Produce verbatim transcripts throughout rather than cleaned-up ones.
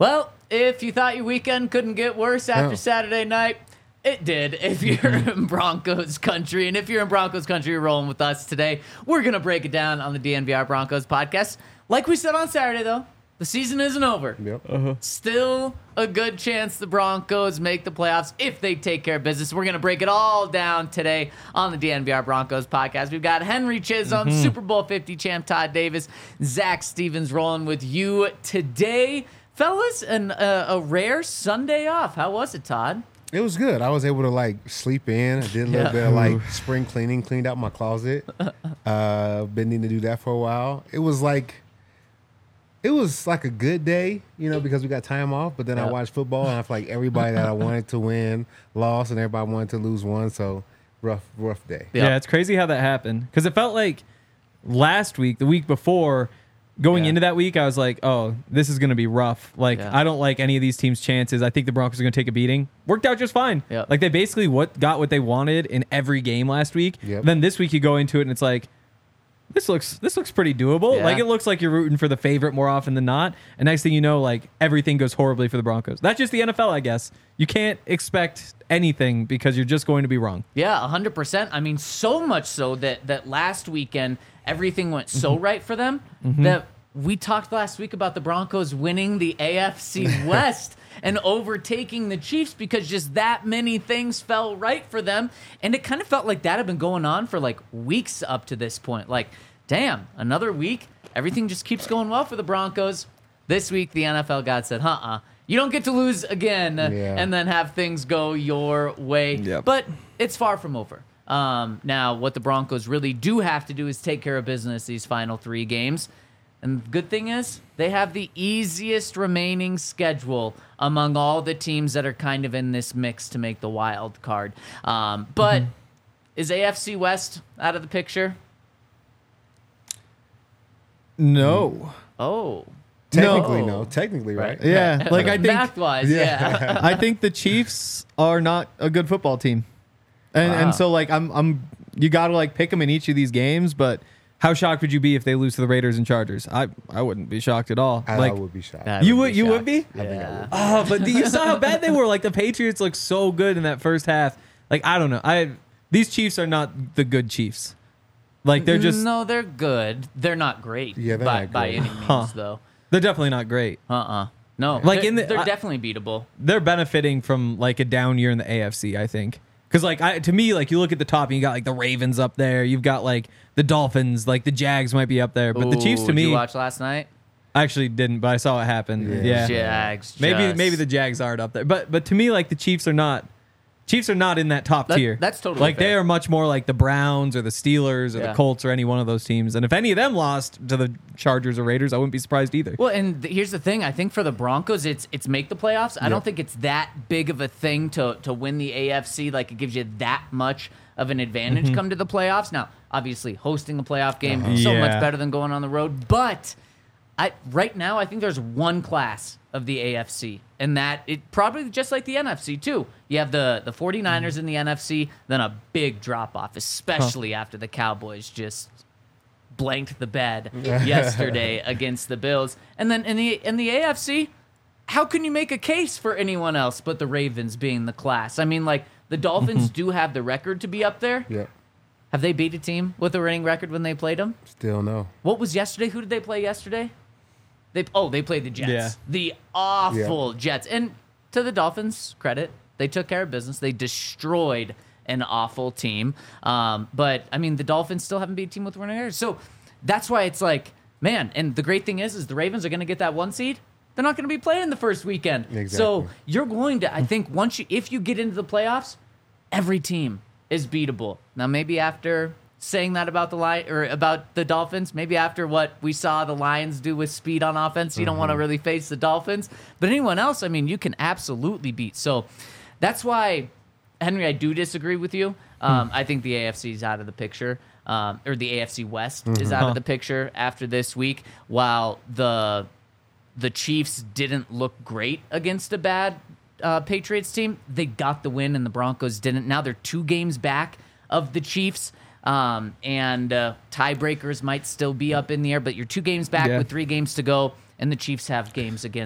Well, if you thought your weekend couldn't get worse after No. Saturday night, it did. If you're in Broncos country, and if you're in Broncos country, you're rolling with us today. We're going to break it down on the D N V R Broncos podcast. Like we said on Saturday, though, the season isn't over. Yep. Uh-huh. Still a good chance the Broncos make the playoffs if they take care of business. We're going to break it all down today on the D N V R Broncos podcast. We've got Henry Chisholm, Mm-hmm. Super Bowl fifty champ Todd Davis, Zach Stevens rolling with you today. Fellas, and uh, a rare Sunday off. How was it, Todd? It was good. I was able to like sleep in. I did a little Yeah. bit of like spring cleaning, cleaned out my closet. Uh, been needing to do that for a while. It was like, it was like a good day, you know, because we got time off. But then I Yep. watched football, and I feel like everybody that I wanted to win lost, and everybody wanted to lose won. So rough, rough day. Yep. Yeah, it's crazy how that happened. Because it felt like last week, the week before, going Yeah. into that week, I was like, oh, this is going to be rough. Like, Yeah. I don't like any of these teams' chances. I think the Broncos are going to take a beating. Worked out just fine. Yep. Like, they basically what got what they wanted in every game last week. Yep. Then this week you go into it and it's like, this looks this looks pretty doable. Yeah. Like, it looks like you're rooting for the favorite more often than not. And next thing you know, like, everything goes horribly for the Broncos. That's just the N F L, I guess. You can't expect anything because you're just going to be wrong. Yeah, one hundred percent. I mean, so much so that, that last weekend, everything went so right for them that we talked last week about the Broncos winning the A F C West and overtaking the Chiefs because just that many things fell right for them. And it kind of felt like that had been going on for like weeks up to this point. Like, damn, another week. Everything just keeps going well for the Broncos. This week, the N F L God said, uh-uh. You don't get to lose again Yeah. and then have things go your way. Yep. But it's far from over. Um, now, what the Broncos really do have to do is take care of business these final three games. And the good thing is, they have the easiest remaining schedule among all the teams that are kind of in this mix to make the wild card. Um, but is A F C West out of the picture? No. Oh. Technically, No. no. Technically, right? Yeah. Like, I think. Math-wise, yeah. I think the Chiefs are not a good football team, and Wow. and so like I'm I'm you got to like pick them in each of these games. But how shocked would you be if they lose to the Raiders and Chargers? I I wouldn't be shocked at all. I, like I would be shocked. I You would would- be you would shocked. be? I think I Yeah. would. oh, but you saw how bad they were. Like the Patriots looked so good in that first half. Like I don't know. I these Chiefs are not the good Chiefs. Like they're just No, they're good. They're not great. Yeah, they're by, not by great. any means, Huh. though. they're definitely not great. Uh-uh. No. Like, they're, in the- they're I- definitely beatable. They're benefiting from like a down year in the A F C, I think. Because like I, to me, like you look at the top and you got like the Ravens up there. You've got like the Dolphins, like the Jags might be up there, but the Chiefs Ooh, to did you me, watch last night? I actually didn't, but I saw it happen. Yeah. Yeah, Jags. maybe just- maybe the Jags aren't up there, but but to me, like the Chiefs are not. Chiefs are not in that top That- tier. that's totally like fair. they are much more like the Browns or the Steelers or Yeah. the Colts or any one of those teams. And if any of them lost to the Chargers or Raiders, I wouldn't be surprised either. Well, and th- here's the thing. I think for the Broncos, it's it's make the playoffs. I don't think it's that big of a thing to to win the A F C. Like it gives you that much of an advantage Mm-hmm. come to the playoffs. Now, obviously, hosting a playoff game Uh-huh. so Yeah. much better than going on the road. But I right now, I think there's one class of the A F C, and that it probably just like the N F C too. You have the the 49ers in the N F C, then a big drop off, especially after the Cowboys just blanked the bed yesterday against the Bills. And then in the in the A F C, how can you make a case for anyone else but the Ravens being the class? I mean, like the Dolphins do have the record to be up there. Yep. Have they beat a team with a winning record when they played them? Still no. What was yesterday? Who did they play yesterday? They oh, they played the Jets. Yeah. The awful Jets. And to the Dolphins' credit, they took care of business. They destroyed an awful team. Um, but I mean, the Dolphins still haven't beat a team with winning record. So that's why it's like, man. And the great thing is, is the Ravens are going to get that one seed. They're not going to be playing the first weekend. So Exactly. you're going to, I think, once you if you get into the playoffs, every team is beatable. Now, maybe after saying that about the Lion or about the Dolphins, maybe after what we saw the Lions do with speed on offense, you don't want to really face the Dolphins. But anyone else, I mean, you can absolutely beat. So that's why, Henry, I do disagree with you. Um, I think the A F C is out of the picture, um, or the A F C West is out of the picture after this week. While the the Chiefs didn't look great against a bad uh, Patriots team, they got the win, and the Broncos didn't. Now they're two games back of the Chiefs. Um, and uh, tiebreakers might still be up in the air, but you're two games back Yeah. with three games to go, and the Chiefs have games against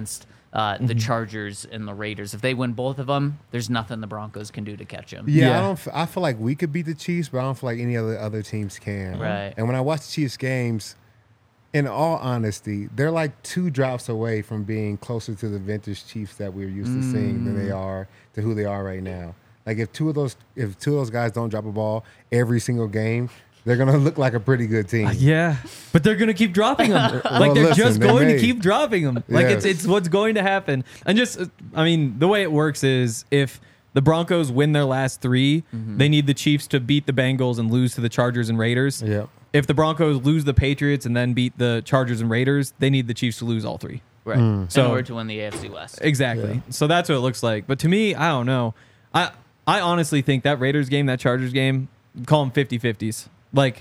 uh, the Chargers and the Raiders. If they win both of them, there's nothing the Broncos can do to catch them. Yeah, Yeah. I don't. f- I feel like we could beat the Chiefs, but I don't feel like any other other teams can. Right. And when I watch the Chiefs games, in all honesty, they're like two drops away from being closer to the vintage Chiefs that we're used to seeing than they are to who they are right now. Like if two of those if two of those guys don't drop a ball every single game, they're gonna look like a pretty good team. Yeah, but they're gonna keep dropping them. Like Well, they're listen, just they going may. to keep dropping them. Like it's Yes. it's what's going to happen. And just, uh, I mean, the way it works is if the Broncos win their last three, they need the Chiefs to beat the Bengals and lose to the Chargers and Raiders. Yep. If the Broncos lose the Patriots and then beat the Chargers and Raiders, they need the Chiefs to lose all three. Right. In So- order to win the A F C West. Exactly. So that's what it looks like. But to me, I don't know. I I honestly think that Raiders game, that Chargers game, call them fifty-fifties. Like,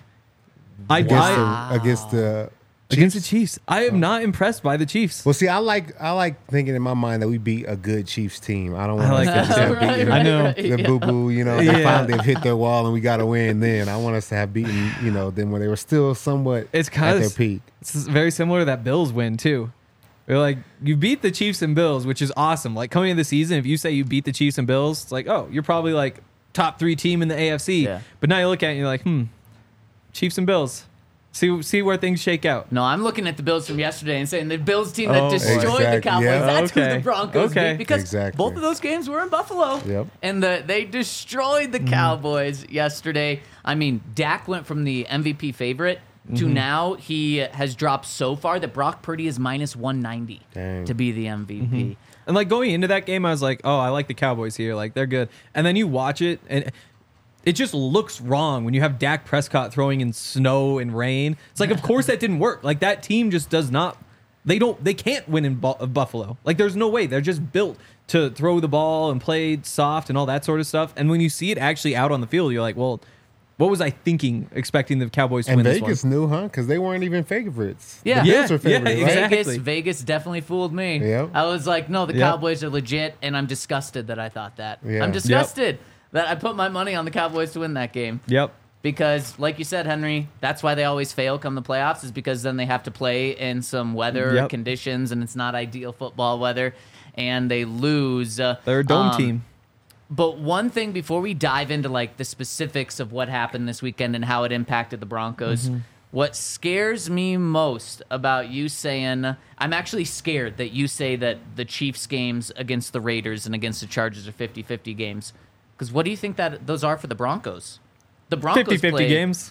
I, Against I the against the against the Chiefs. I am not impressed by the Chiefs. Well, see, I like I like thinking in my mind that we beat a good Chiefs team. I don't I want like us that to have too. beaten I know. right, the yeah. boo boo. You know, they Yeah. finally have hit their wall and we got to win. Then I want us to have beaten you know them when they were still somewhat It's at kind their of peak. It's very similar to that Bills win too. They're like, you beat the Chiefs and Bills, which is awesome. Like coming into the season, if you say you beat the Chiefs and Bills, it's like, oh, you're probably like top three team in the A F C. Yeah. But now you look at it and you're like, hmm, Chiefs and Bills. See see where things shake out. No, I'm looking at the Bills from yesterday and saying the Bills team that Oh, destroyed exactly. the Cowboys. Yeah. That's who Okay. the Broncos Okay. beat because Exactly. both of those games were in Buffalo. Yep. And the, they destroyed the Cowboys yesterday. I mean, Dak went from the M V P favorite to now he has dropped so far that Brock Purdy is minus one ninety Dang. to be the M V P. And like going into that game, I was like, oh, I like the Cowboys here. Like they're good. And then you watch it and it just looks wrong when you have Dak Prescott throwing in snow and rain. It's like, of course that didn't work. Like that team just does not. They don't. They can't win in Bu- Buffalo. Like there's no way. They're just built to throw the ball and play soft and all that sort of stuff. And when you see it actually out on the field, you're like, well, what was I thinking? Expecting the Cowboys to And win this Vegas one? knew, huh? Because they weren't even favorites. Yeah. the Yeah, Bills were yeah, favorites, right? exactly. Vegas, Vegas definitely fooled me. Yep. I was like, no, the Yep. Cowboys are legit, and I'm disgusted that I thought that. Yeah. I'm Yep. disgusted that I put my money on the Cowboys to win that game. Yep. Because, like you said, Henry, that's why they always fail come the playoffs, is because then they have to play in some weather Yep. conditions, and it's not ideal football weather, and they lose. Uh, They're a dome um, team. But one thing before we dive into like the specifics of what happened this weekend and how it impacted the Broncos, Mm-hmm. what scares me most about you saying, I'm actually scared that you say that the Chiefs games against the Raiders and against the Chargers are fifty-fifty games. Because what do you think that those are for the Broncos? The Broncos fifty-fifty played- games.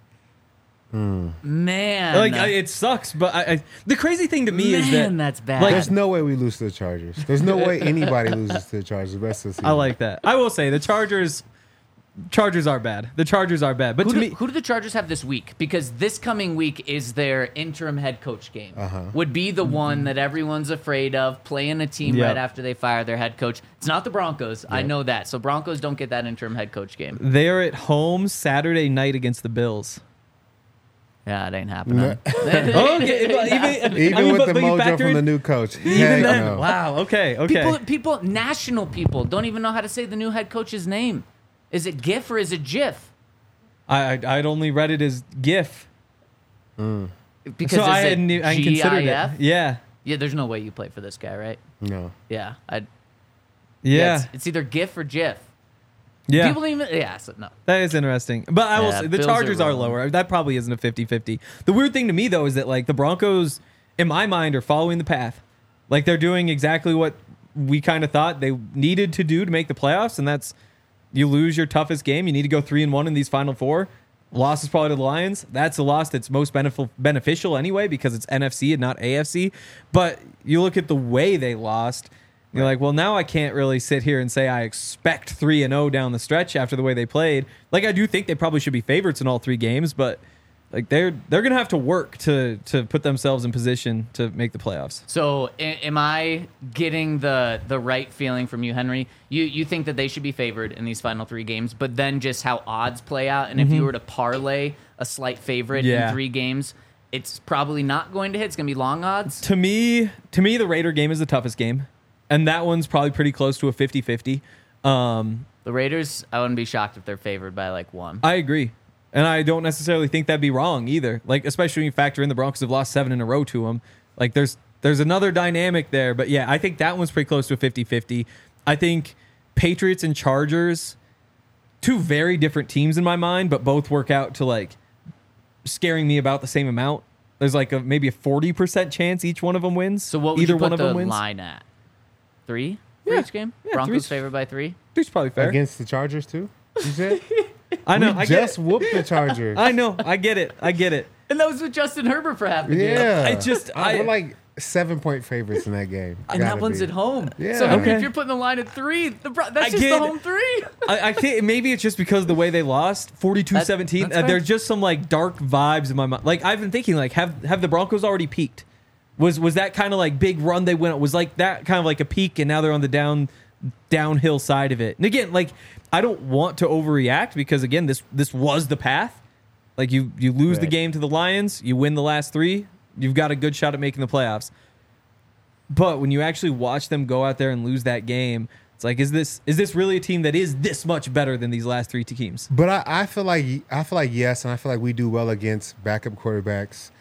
Man. Like I, it sucks, but I, I, the crazy thing to me is Man, that that's bad. like, There's no way we lose to the Chargers. There's no way anybody loses to the Chargers the rest of the season. I like that. I will say the Chargers, Chargers are bad. The Chargers are bad. But Who to do, me, who do the Chargers have this week? Because this coming week is their interim head coach game. Uh-huh. Would be the one that everyone's afraid of, playing a team Yep. right after they fire their head coach. It's not the Broncos. I Yep. know that. So Broncos don't get that interim head coach game. they are at home Saturday night against the Bills. Yeah, it ain't happening. No. Okay, but even, Even I mean, with but- the but you mojo factor from the in- new coach. Even Heck then, no. wow. Okay, okay. People, people, national people don't even know how to say the new head coach's name. Is it GIF or is it GIF? I, I I'd only read it as GIF, Because so is I it hadn't e- I hadn't considered GIF? it. Yeah, Yeah, there's no way you play for this guy, right? No. Yeah, I. yeah, it's, it's either GIF or GIF. yeah. People don't even. Yeah, so no. That is interesting. But I will Yeah, say the Bills are Chargers are, wrong. lower. That probably isn't a fifty-fifty. The weird thing to me, though, is that, like, the Broncos, in my mind, are following the path. Like, they're doing exactly what we kind of thought they needed to do to make the playoffs, and that's you lose your toughest game. You need to go three and one in these final four. Loss is probably to the Lions. That's a loss that's most benef- beneficial anyway because it's N F C and not A F C. But you look at the way they lost. You're like, well, now I can't really sit here and say I expect three and oh down the stretch after the way they played. Like, I do think they probably should be favorites in all three games, but like they're they're gonna have to work to to put themselves in position to make the playoffs. So, a- am I getting the the right feeling from you, Henry? You you think that they should be favored in these final three games, but then just how odds play out, and if you were to parlay a slight favorite Yeah. in three games, it's probably not going to hit. It's going to be long odds. To me, to me, the Raider game is the toughest game, and that one's probably pretty close to a fifty-fifty. Um, The Raiders, I wouldn't be shocked if they're favored by like one. I agree. And I don't necessarily think that'd be wrong either. Like, especially when you factor in the Broncos have lost seven in a row to them. Like, there's there's another dynamic there. But yeah, I think that one's pretty close to a fifty-fifty. I think Patriots and Chargers, two very different teams in my mind, but both work out to like scaring me about the same amount. There's like a maybe a forty percent chance each one of them wins. So what would Either you put one of the them wins. line at? Three for Yeah. each game? Yeah, Broncos three's- favored by three? Three's probably fair. Against the Chargers too. You said I know. we I get just it. whooped the Chargers. I know. I get it. I get it. And that was with Justin Herbert for half the game. yeah, I just- I, I- we're like seven point favorites in that game. And that Gotta one's be. at home. Yeah. So Henry, Okay. if you're putting the line at three, the Bro- that's I just get the it. home three. I, I think maybe it's just because of the way they lost forty-two seventeen. That- that's Uh, fair. there's just some like dark vibes in my mind. Like I've been thinking, like have have the Broncos already peaked? Was was that kind of like big run they went? Was like that kind of like a peak, and now they're on the down downhill side of it. And again, like I don't want to overreact because again, this this was the path. Like you you lose the Right. game to the Lions, you win the last three, you've got a good shot at making the playoffs. But when you actually watch them go out there and lose that game, it's like, is this is this really a team that is this much better than these last three teams? But I, I feel like I feel like yes, and I feel like we do well against backup quarterbacks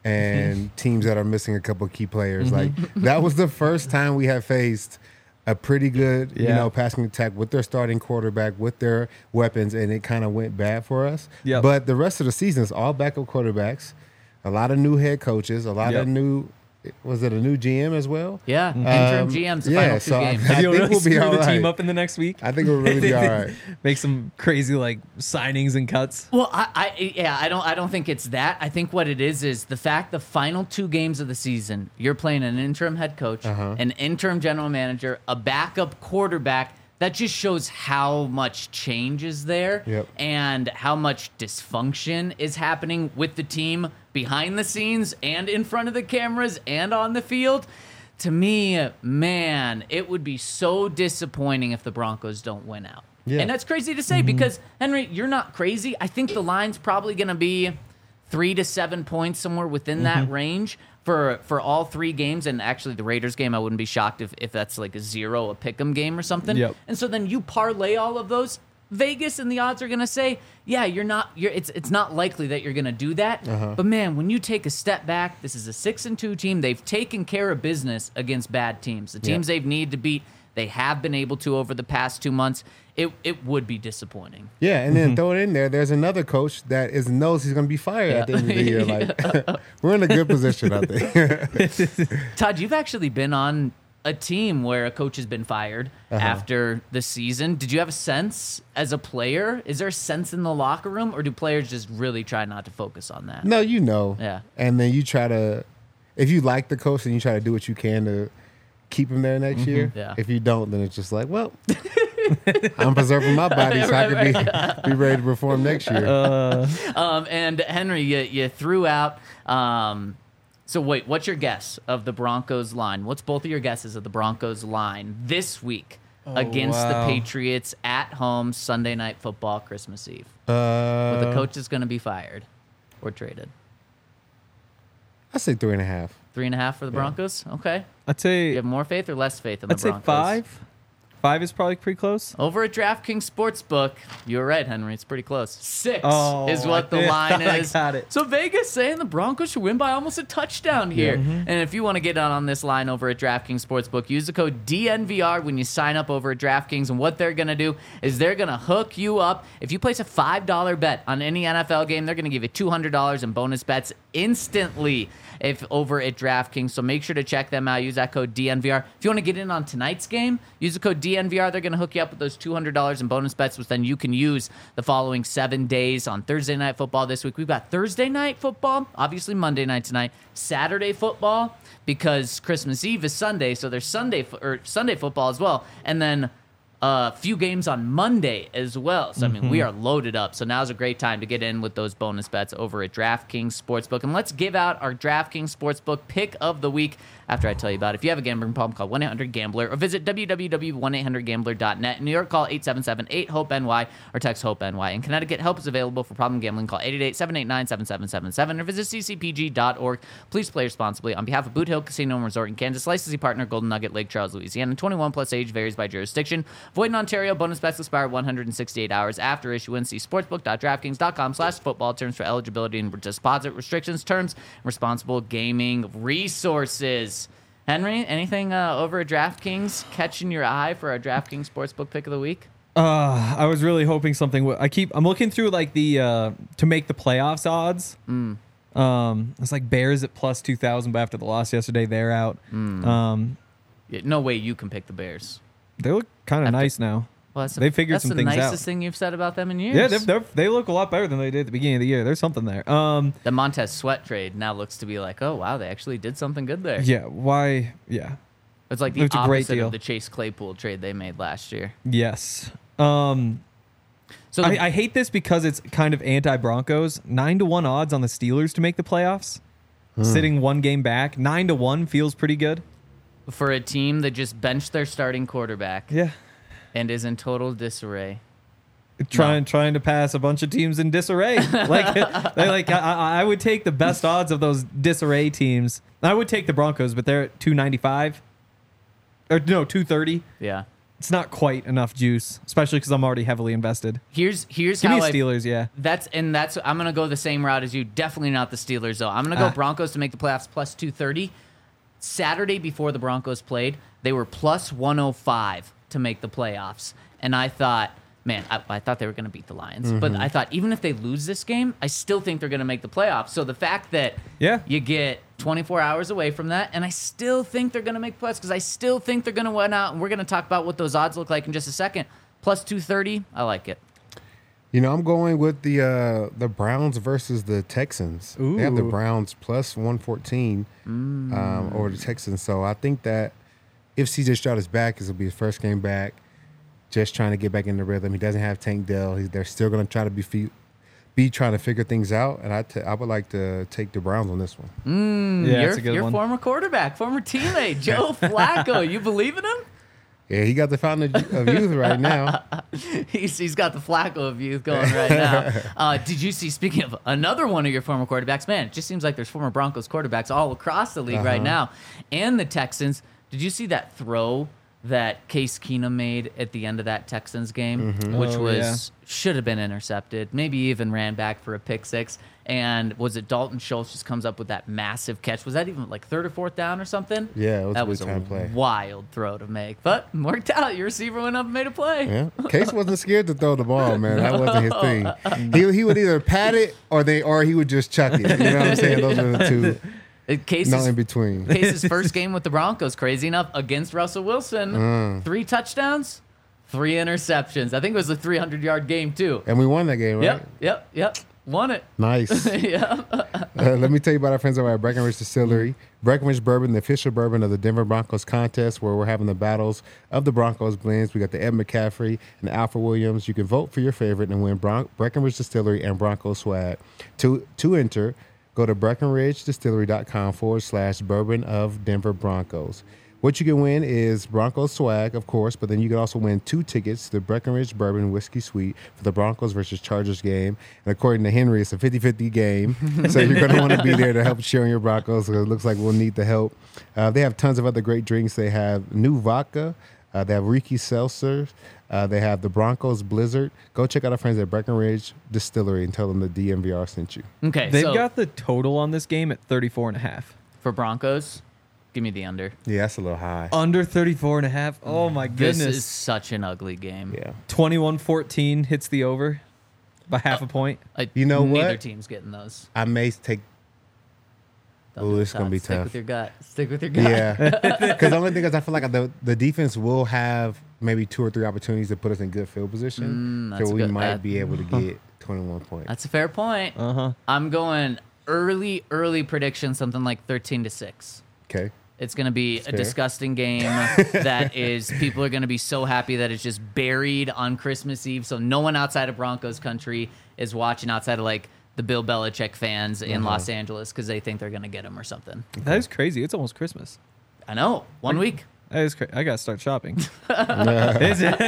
and teams that are missing a couple key players. Like that was the first time we have faced a pretty good, you Yeah. know, passing attack with their starting quarterback, with their weapons, and it kind of went bad for us. Yep. But the rest of the season is all backup quarterbacks, a lot of new head coaches, a lot Yep. of new. Was it a new G M as well? Yeah, interim Um, G Ms the yeah, final two so I- games. Have I you think really we'll be screw all the team right. up in the next week? I think we'll really be all right. Make some crazy like signings and cuts. Well, I, I yeah, I don't I don't think it's that. I think what it is is the fact the final two games of the season, you're playing an interim head coach, Uh-huh. an interim general manager, a backup quarterback. That just shows how much change is there Yep. and how much dysfunction is happening with the team behind the scenes and in front of the cameras and on the field. To me, man, it would be so disappointing if the Broncos don't win out. Yeah. And that's crazy to say because, Henry, you're not crazy. I think the line's probably going to be three to seven points, somewhere within that range for for all three games. And actually, the Raiders game, I wouldn't be shocked if, if that's like a zero, a pick'em game or something. Yep. And so then you parlay all of those. Vegas and the odds are going to say, yeah, you're not. You're. It's it's not likely that you're going to do that. Uh-huh. But man, when you take a step back, this is a six and two team. They've taken care of business against bad teams. The teams they've needed to beat, they have been able to over the past two months. It it would be disappointing. Yeah, and then throw it in there. There's another coach that is knows he's going to be fired at the end of the year. Like we're in a good position, I think. Todd, you've actually been on a team where a coach has been fired Uh-huh. after the season. Did you have a sense as a player? Is there a sense in the locker room, or do players just really try not to focus on that? No, you know. Yeah. And then you try to, if you like the coach, then you try to do what you can to keep him there next year. Yeah. If you don't, then it's just like, well, I'm preserving my body so I can be be ready to perform next year. Uh, Um, and Henry, you, you threw out. Um, so wait, what's your guess of the Broncos line? What's both of your guesses of the Broncos line this week against wow. the Patriots at home Sunday Night Football Christmas Eve? Uh, Where the coach is going to be fired or traded. I say three and a half. Three and a half for the Broncos. Okay. I'd say You have more faith or less faith in the I'd say Broncos? five. Five is probably pretty close. Over at DraftKings Sportsbook, you're right, Henry. It's pretty close. Six Oh, is what the I line thought I is. got it. So Vegas saying the Broncos should win by almost a touchdown here. And if you want to get on on this line over at DraftKings Sportsbook, use the code D N V R when you sign up over at DraftKings. And what they're going to do is they're going to hook you up. If you place a five dollar bet on any N F L game, they're going to give you two hundred dollars in bonus bets instantly if over at DraftKings. So make sure to check them out. Use that code D N V R. If you want to get in on tonight's game, use the code D N V R. They're going to hook you up with those two hundred dollars in bonus bets, which then you can use the following seven days on Thursday Night Football this week. We've got Thursday Night Football, obviously Monday night tonight, Saturday Football, because Christmas Eve is Sunday, so there's Sunday fo- or Sunday Football as well, and then a few games on Monday as well. So, I mean, we are loaded up. So now's a great time to get in with those bonus bets over at DraftKings Sportsbook. And let's give out our DraftKings Sportsbook pick of the week after I tell you about it. If you have a gambling problem, call one eight hundred gambler or visit w w w dot one eight hundred gambler dot net. In New York, call eight seven seven eight hope N Y or text HOPE-NY. In Connecticut, help is available for problem gambling. Call eight eight eight, seven eight nine, seven seven seven seven or visit c c p g dot org. Please play responsibly. On behalf of Boot Hill Casino and Resort in Kansas, licensee partner Golden Nugget, Lake Charles, Louisiana. twenty-one plus age varies by jurisdiction. Void in Ontario. Bonus bets expire one hundred sixty-eight hours after issuance. See sportsbook dot draftkings dot com slash football terms for eligibility and deposit restrictions, terms, and responsible gaming resources. Henry, anything uh, over at DraftKings catching your eye for our DraftKings Sportsbook pick of the week? Uh, I was really hoping something. W- I keep. I'm looking through like the uh, to make the playoffs odds. Mm. Um, it's like Bears at plus two thousand, but after the loss yesterday, they're out. Mm. Um, Yeah, no way you can pick the Bears. they look kind of After- nice now. Well, that's the- They figured that's some the things nicest out. thing you've said about them in years. Yeah, they're, they're, they look a lot better than they did at the beginning of the year. There's something there. Um, The Montez Sweat trade now looks to be like, oh wow, they actually did something good there. yeah. Why? Yeah. It's like the It's a great opposite deal. of the Chase Claypool trade they made last year. Yes. Um, So the, I, I hate this because it's kind of anti-Broncos. Nine to one odds on the Steelers to make the playoffs. Sitting one game back, nine to one feels pretty good. for a team that just benched their starting quarterback Yeah. and is in total disarray. Trying trying to pass a bunch of teams in disarray. Like, they like I, I I would take the best odds of those disarray teams. I would take the Broncos, but they're at two ninety-five. Or no, two thirty. Yeah. It's not quite enough juice, especially because I'm already heavily invested. Here's here's Give how me I Steelers, yeah. That's and that's I'm gonna go the same route as you. Definitely not the Steelers though. I'm gonna go Ah. Broncos to make the playoffs plus two thirty. Saturday before the Broncos played, they were plus one oh five to make the playoffs, and I thought, man, I, I thought they were gonna beat the Lions, but I thought even if they lose this game, I still think they're gonna make the playoffs. So the fact that Yeah. you get twenty-four hours away from that, and I still think they're gonna make playoffs because I still think they're gonna win out, and we're gonna talk about what those odds look like in just a second. Plus two thirty, I like it. You know, I'm going with the uh, the Browns versus the Texans. They have the Ooh. Browns plus one fourteen um, over the Texans. So I think that if C J Stroud is back, this will be his first game back. Just trying to get back in the rhythm. He doesn't have Tank Dell. He's, they're still going to try to be fe- be trying to figure things out. And I, t- I would like to take the Browns on this one. Mm, Yeah, your, it's a good your one. former quarterback, former teammate, Joe Flacco. You believe in him? Yeah, he got the fountain of of youth right now. He's, he's got the Flacco of youth going right now. Uh, did you see, speaking of another one of your former quarterbacks, man, it just seems like there's former Broncos quarterbacks all across the league Uh-huh. right now. And the Texans. Did you see that throw that Case Keenum made at the end of that Texans game, which Oh, was yeah. should have been intercepted, maybe even ran back for a pick six. And was it Dalton Schultz just comes up with that massive catch? Was that even like third or fourth down or something? Yeah, it was that a was big a time play. wild throw to make, but worked out. Your receiver went up and made a play. Yeah, Case wasn't scared to throw the ball, man. That wasn't his thing. He he would either pat it or they or he would just chuck it. You know what I'm saying? Those are the two. It- Case No is in between. Case's first game with the Broncos, crazy enough, against Russell Wilson. Mm. Three touchdowns, three interceptions. I think it was a three hundred yard game, too. And we won that game, right? Yep, yep, yep. Won it. Nice. yeah. Uh, let me tell you about our friends over at Breckenridge Distillery. Breckenridge Bourbon, the official bourbon of the Denver Broncos contest, where we're having the battles of the Broncos blends. We got the Ed McCaffrey and the Alpha Williams. You can vote for your favorite and win Bron- Breckenridge Distillery and Broncos swag. To to enter, go to breckenridgedistillery.com forward slash bourbon of Denver Broncos. What you can win is Broncos swag, of course, but then you can also win two tickets to the Breckenridge Bourbon Whiskey Suite for the Broncos versus Chargers game. And according to Henry, it's a fifty-fifty game. So you're going to want to be there to help cheer on your Broncos. So it looks like we'll need the help. Uh, they have tons of other great drinks. They have new vodka. Uh, they have Ricky Seltzer. Uh, they have the Broncos Blizzard. Go check out our friends at Breckenridge Distillery and tell them the D M V R sent you. Okay, They've so got the total on this game at thirty-four and a half. for Broncos, give me the under. Yeah, that's a little high. Under thirty-four and a half. Oh my This goodness. is such an ugly game. Yeah. twenty-one fourteen hits the over by half a point. I- You know neither what? team's getting those. I may take. Don't Ooh, do it, it's gonna Todd. be Stick tough. with your gut. Stick with your gut. Yeah, because the only thing is, I feel like the the defense will have maybe two or three opportunities to put us in good field position, Mm, that's so we good. might That- be able to get twenty-one points. That's a fair point. Uh huh. I'm going early, early prediction, something like thirteen to six. Okay, It's going to be a fair. disgusting game that is, people are going to be so happy that it's just buried on Christmas Eve. So no one outside of Broncos country is watching outside of like the Bill Belichick fans in Uh-huh. Los Angeles because they think they're going to get him or something. That is crazy. It's almost Christmas. I know. One week. That is crazy. I gotta start shopping. Is it?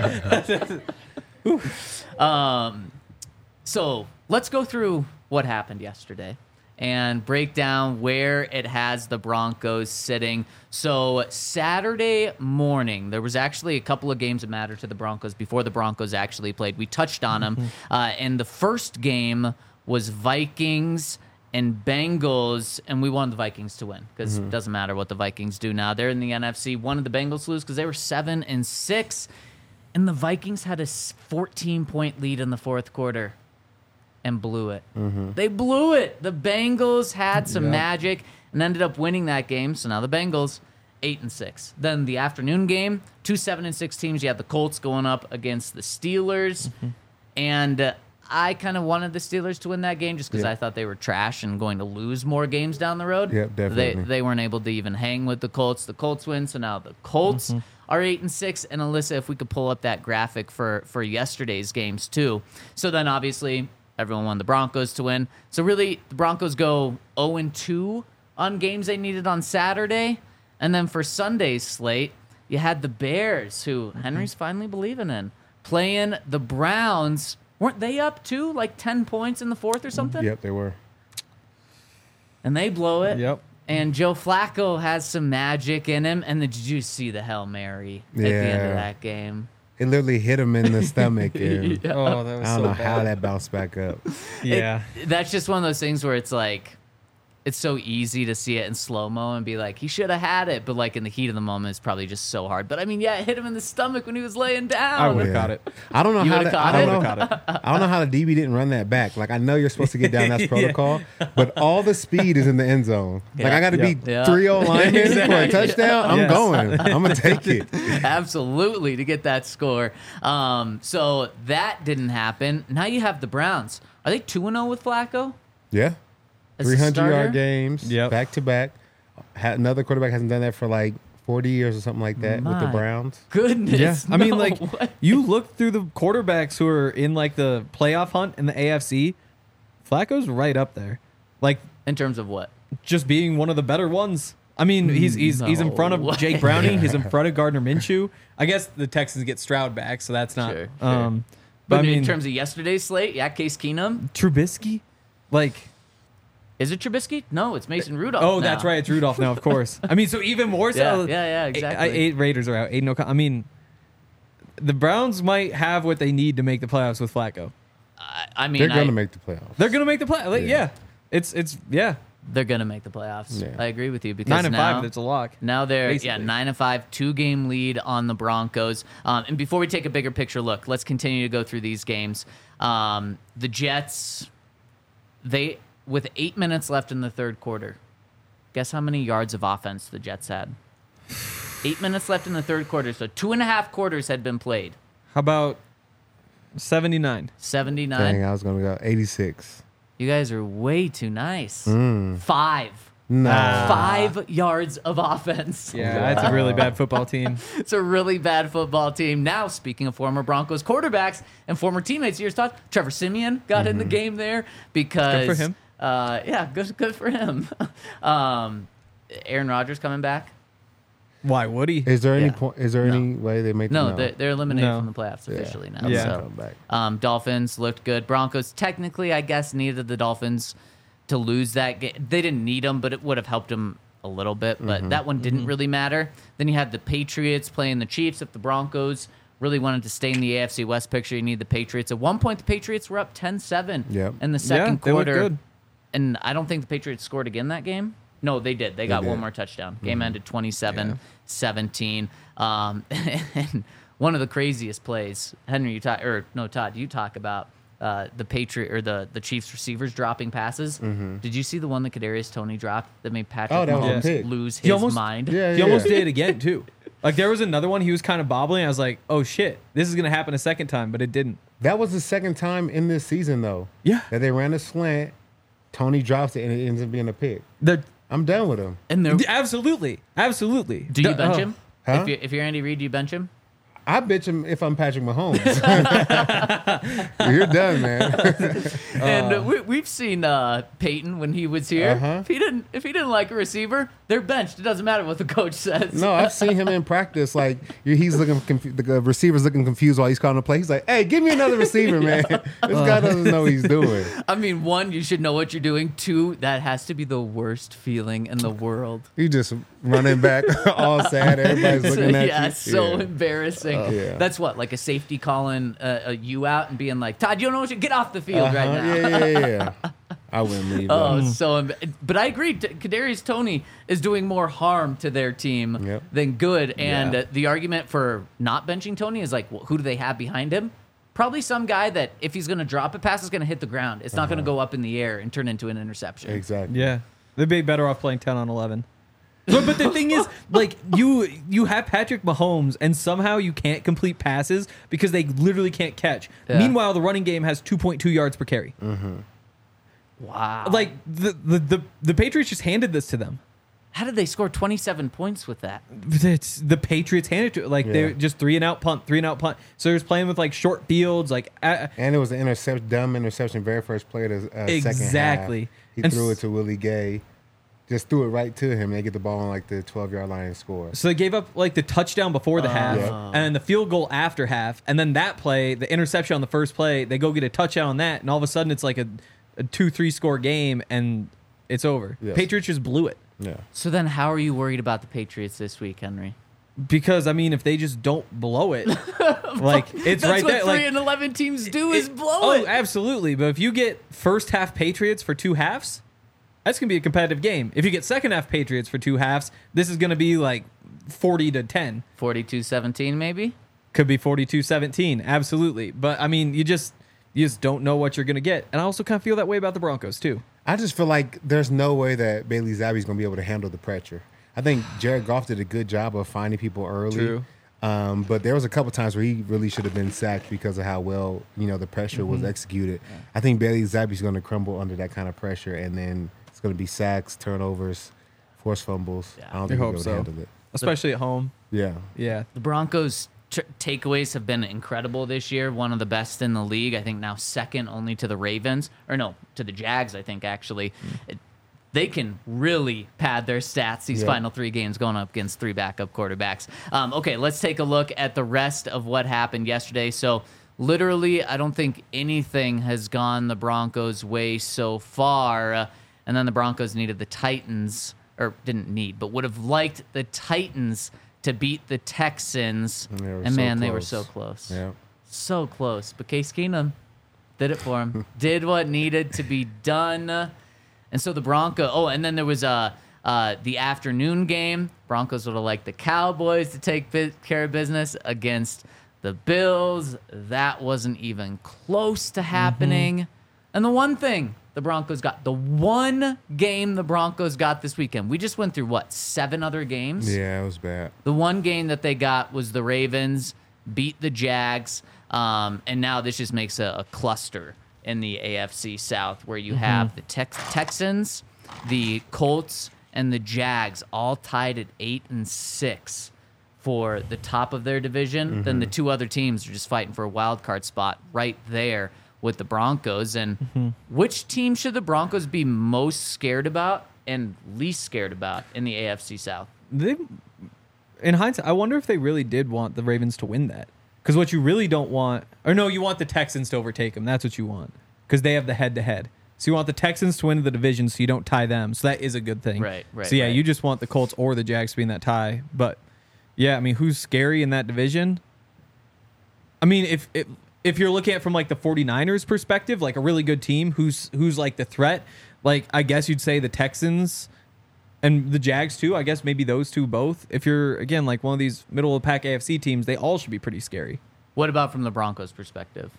Um, so let's go through what happened yesterday and break down where it has the Broncos sitting. So Saturday morning, there was actually a couple of games that mattered to the Broncos before the Broncos actually played. We touched on them. Uh, and the first game was Vikings and Bengals, and we wanted the Vikings to win because it doesn't matter what the Vikings do now. They're in the N F C. Wanted the Bengals to lose because they were seven and six, and the Vikings had a fourteen point lead in the fourth quarter and blew it. Mm-hmm. They blew it. The Bengals had some Yep. magic and ended up winning that game. So now the Bengals eight and six. Then the afternoon game, two seven and six teams. You had the Colts going up against the Steelers, mm-hmm. and uh, I kind of wanted the Steelers to win that game just because Yeah. I thought they were trash and going to lose more games down the road. Yep, definitely. They they weren't able to even hang with the Colts. The Colts win, so now the Colts Mm-hmm. are eight and six. And Alyssa, if we could pull up that graphic for for yesterday's games too. So then obviously everyone wanted the Broncos to win. So really the Broncos go oh and two on games they needed on Saturday, and then for Sunday's slate you had the Bears, who Henry's finally believing in, playing the Browns. Weren't they up too, like ten points in the fourth or something? Yep, they were. And they blow it. Yep. And Joe Flacco has some magic in him. And then did you see the Hail Mary at the end of Yeah. that game? It literally hit him in the stomach. And Oh, that was I don't so know bad. how that bounced back up. Yeah. It- that's just one of those things where it's like, it's so easy to see it in slow-mo and be like, he should have had it. But like in the heat of the moment, it's probably just so hard. But I mean, yeah, it hit him in the stomach when he was laying down. I would have Yeah. caught it. I don't know You how would've the, caught I it? don't I know. would've caught I don't know how the D B didn't run that back. Like I know you're supposed to get down. That's protocol. But all the speed is in the end zone. Like Yeah. I got to Yep. be Yeah. three oh linemen for a touchdown. I'm Yes. going. I'm gonna take it. Absolutely, to get that score. Um, so that didn't happen. Now you have the Browns. Are they two and oh with Flacco? Yeah. As a three hundred starter? yard games. Yep. Back to back. Ha- Another quarterback hasn't done that for like forty years or something like that with the My Browns. Goodness. Yeah, I mean, no like way. you look through the quarterbacks who are in like the playoff hunt in the A F C. Flacco's right up there, like In terms of what? just being one of the better ones. I mean, he's he's he's in front of No Jake way. Browning. He's in front of Gardner Minshew. I guess the Texans get Stroud back, so that's not. Sure, sure. Um, But, but I mean, in terms of yesterday's slate, yeah, Case Keenum. Trubisky, like. Is it Trubisky? No, it's Mason Rudolph. Oh, now. that's right. It's Rudolph now, of course. I mean, so even more so. Yeah, yeah, yeah, exactly. Eight, eight Raiders are out. Eight no. I mean, the Browns might have what they need to make the playoffs with Flacco. I, I mean, They're going I- to make the playoffs. They're gonna make the play. Like, Yeah. yeah. it's it's yeah. they're gonna make the playoffs. Yeah. I agree with you because Nine and now, five. It's a lock. Now they're yeah basically. nine and five, two game lead on the Broncos. Um, and before we take a bigger picture look, let's continue to go through these games. Um, the Jets, they with eight minutes left in the third quarter, guess how many yards of offense the Jets had? Eight minutes left in the third quarter, so two and a half quarters had been played. How about seventy-nine? seventy-nine. Dang, I was going to go eighty-six. You guys are way too nice. Mm. Five. No. Five yards of offense. Yeah, that's a really bad football team. It's a really bad football team. Now, speaking of former Broncos quarterbacks and former teammates, here's thought Trevor Siemian got in the game there because Good for him. Uh, yeah, good, good for him. um, Aaron Rodgers coming back. Why would he? Is there any Yeah. point? Is there No. any way they make? No, no. They're, they're eliminated No. from the playoffs Yeah. officially now. Yeah. So. Come back. Um, Dolphins looked good. Broncos technically, I guess, needed the Dolphins to lose that game. They didn't need them, but it would have helped them a little bit. But that one didn't really matter. Then you had the Patriots playing the Chiefs. If the Broncos really wanted to stay in the A F C West picture, you need the Patriots. At one point, the Patriots were up ten seven Yep. in the Yeah, second they looked quarter. good. And I don't think the Patriots scored again that game. No, they did. They got one did. more touchdown. Game ended twenty-seven seventeen. Um, and one of the craziest plays, Henry, you talk, or no, Todd, you talk about uh, the Patriot or the, the Chiefs receivers dropping passes. Did you see the one that Kadarius Toney dropped that made Patrick Oh, that was a Mahomes pick. lose He his almost- mind? Yeah, He yeah. almost did it again too. Like there was another one. He was kind of bobbling. I was like, oh shit, this is gonna happen a second time, but it didn't. That was the second time in this season, though. Yeah. That they ran a slant. Tony drops it and it ends up being a pick. The I'm done with him. And they're, absolutely, absolutely. do you The- bench oh. him? Huh? If, you, if you're Andy Reid, do you bench him? I bitch him if I'm Patrick Mahomes. You're done, man. And uh, we, we've seen uh, Peyton when he was here. Uh-huh. If he didn't, if he didn't like a receiver, they're benched. It doesn't matter what the coach says. No, I've seen him in practice. Like he's looking, confu- the uh, receiver's looking confused while he's calling the play. He's like, "Hey, give me another receiver, man. This guy doesn't know what he's doing." I mean, one, you should know what you're doing. Two, that has to be the worst feeling in the world. He's just running back, all sad. Everybody's looking at yeah, you. so Yeah. embarrassing. yeah. That's what, like a safety calling uh, a you out and being like, Todd, you don't know what you get off the field right Uh-huh. now. Yeah, yeah, yeah. I wouldn't leave. Oh, though. so em- but I agree. T- Kadarius Toney is doing more harm to their team Yep. than good. And Yeah. uh, the argument for not benching Toney is like, well, who do they have behind him? Probably some guy that if he's going to drop a pass, it's going to hit the ground. It's not going to go up in the air and turn into an interception. Exactly. Yeah, they'd be better off playing ten on eleven. But, but the thing is, like you, you have Patrick Mahomes, and somehow you can't complete passes because they literally can't catch. Yeah. Meanwhile, the running game has two point two yards per carry. Wow. Like the, the the the Patriots just handed this to them. How did they score twenty-seven points with that? It's the Patriots handed it to like Yeah. they're just three and out punt, three and out punt. So they're just playing with like short fields, like uh, And it was an interception, dumb interception, very first play of the uh, second half. Exactly. He And threw s- it to Willie Gay. Just threw it right to him. They get the ball on like the twelve-yard line and score. So they gave up like the touchdown before the half, Yeah. and then the field goal after half, and then that play, the interception on the first play, they go get a touchdown on that, and all of a sudden it's like a, a two three score game, and it's over. Yes. Patriots just blew it Yeah. So then how are you worried about the Patriots this week, Henry? because I mean if they just don't blow it, like it's That's right what there. three Like and eleven teams do is it- blow oh, it. absolutely. But if you get first half Patriots for two halves, that's gonna be a competitive game. If you get second half Patriots for two halves, this is gonna be like forty to ten. forty-two seventeen maybe? Could be forty-two seventeen, absolutely. But I mean, you just you just don't know what you're gonna get. And I also kind of feel that way about the Broncos too. I just feel like there's no way that Bailey Zappi's going to be able to handle the pressure. I think Jared Goff did a good job of finding people early. True. Um, but there was a couple times where he really should have been sacked because of how well, you know, the pressure Mm-hmm. was executed. I think Bailey Zappi's going to crumble under that kind of pressure, and then it's going to be sacks, turnovers, forced fumbles. Yeah. I don't I think he'll hope be able so. to handle it. Especially at home. Yeah. Yeah. The Broncos' t- takeaways have been incredible this year. One of the best in the league. I think now second only to the Ravens. Or no, to the Jags, I think, actually. It, they can really pad their stats these Yeah. final three games going up against three backup quarterbacks. Um, okay, let's take a look at the rest of what happened yesterday. So, literally, I don't think anything has gone the Broncos' way so far. Uh, and then the Broncos needed the Titans, or didn't need, but would have liked the Titans to beat the Texans. And they were And so man, they were close. so close. Yeah. So close. But Case Keenum did it for him. Did what needed to be done. And so the Broncos, oh, and then there was uh, uh, the afternoon game. Broncos would have liked the Cowboys to take bi- care of business against the Bills. That wasn't even close to happening. And the one thing the Broncos got, the one game the Broncos got this weekend, we just went through, what, seven other games? Yeah, it was bad. The one game that they got was the Ravens beat the Jags, um, and now this just makes a, a cluster in the A F C South where you have the Tex- Texans, the Colts, and the Jags all tied at eight and six for the top of their division. Then the two other teams are just fighting for a wild card spot right there with the Broncos. And which team should the Broncos be most scared about and least scared about in the A F C South? They, in hindsight, I wonder if they really did want the Ravens to win that. Because what you really don't want, or no, you want the Texans to overtake them. That's what you want. Because they have the head to head. So you want the Texans to win the division so you don't tie them. So that is a good thing. Right, right, So yeah, right. you just want the Colts or the Jags to be in that tie. But yeah, I mean, who's scary in that division? I mean, if if, if you're looking at it from like the 49ers perspective, like a really good team, who's who's like the threat? Like I guess you'd say the Texans and the Jags too. I guess maybe those two both. If you're again like one of these middle of the pack A F C teams, they all should be pretty scary. What about from the Broncos' perspective?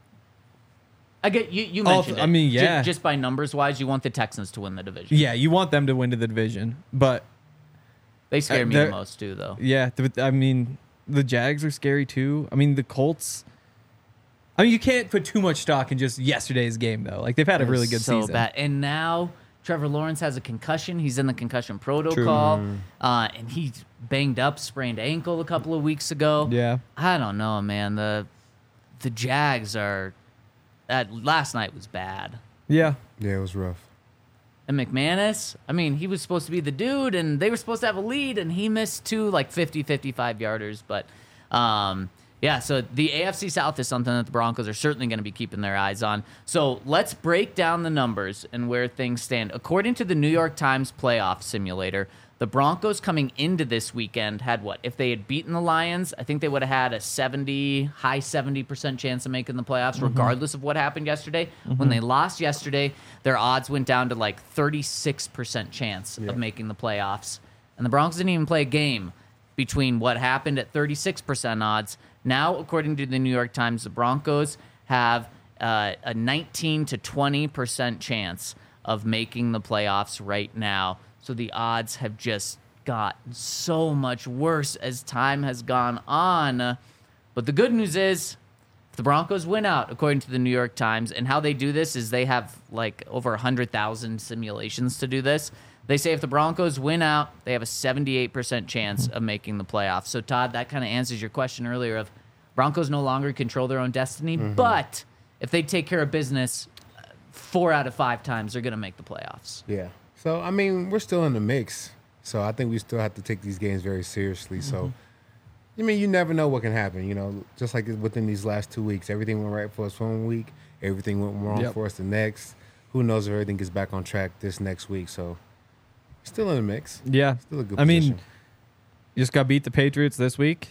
I get you. You Oh, mentioned. I it. mean, Ju- yeah. Just, by numbers wise, you want the Texans to win the division. Yeah, you want them to win to the division, but They scare Uh, me the they're- most too, though. yeah, th- I mean the Jags are scary too. I mean the Colts. I mean you can't put too much stock in just yesterday's game though. Like they've had a really good so season. bad. And now Trevor Lawrence has a concussion. He's in the concussion protocol, uh, and he's banged up, sprained ankle a couple of weeks ago. Yeah. I don't know, man. The the Jags are. Uh, last night was bad. Yeah. Yeah, it was rough. And McManus, I mean, he was supposed to be the dude, and they were supposed to have a lead, and he missed two, like, fifty, fifty-five yarders. But, um, yeah, so the A F C South is something that the Broncos are certainly going to be keeping their eyes on. So let's break down the numbers and where things stand. According to the New York Times playoff simulator, The Broncos coming into this weekend had what? If they had beaten the Lions, I think they would have had a seventy, high seventy percent chance of making the playoffs, mm-hmm. regardless of what happened yesterday. Mm-hmm. When they lost yesterday, their odds went down to like thirty-six percent chance yeah. of making the playoffs. And the Broncos didn't even play a game between what happened at thirty-six percent odds. Now, according to the New York Times, the Broncos have uh, a nineteen to twenty percent chance of making the playoffs right now. So the odds have just gotten so much worse as time has gone on. But the good news is, if the Broncos win out, according to the New York Times, and how they do this is they have like over one hundred thousand simulations to do this. They say if the Broncos win out, they have a seventy-eight percent chance of making the playoffs. So, Todd, that kind of answers your question earlier of Broncos no longer control their own destiny. Mm-hmm. But if they take care of business, four out of five times they're going to make the playoffs. Yeah. So, I mean, we're still in the mix. So, I think we still have to take these games very seriously. Mm-hmm. So, I mean, you never know what can happen. You know, just like within these last two weeks, everything went right for us one week. Everything went wrong yep. for us the next. Who knows if everything gets back on track this next week. So, still in the mix. Yeah. Still a good I position. mean, you just got to beat the Patriots this week.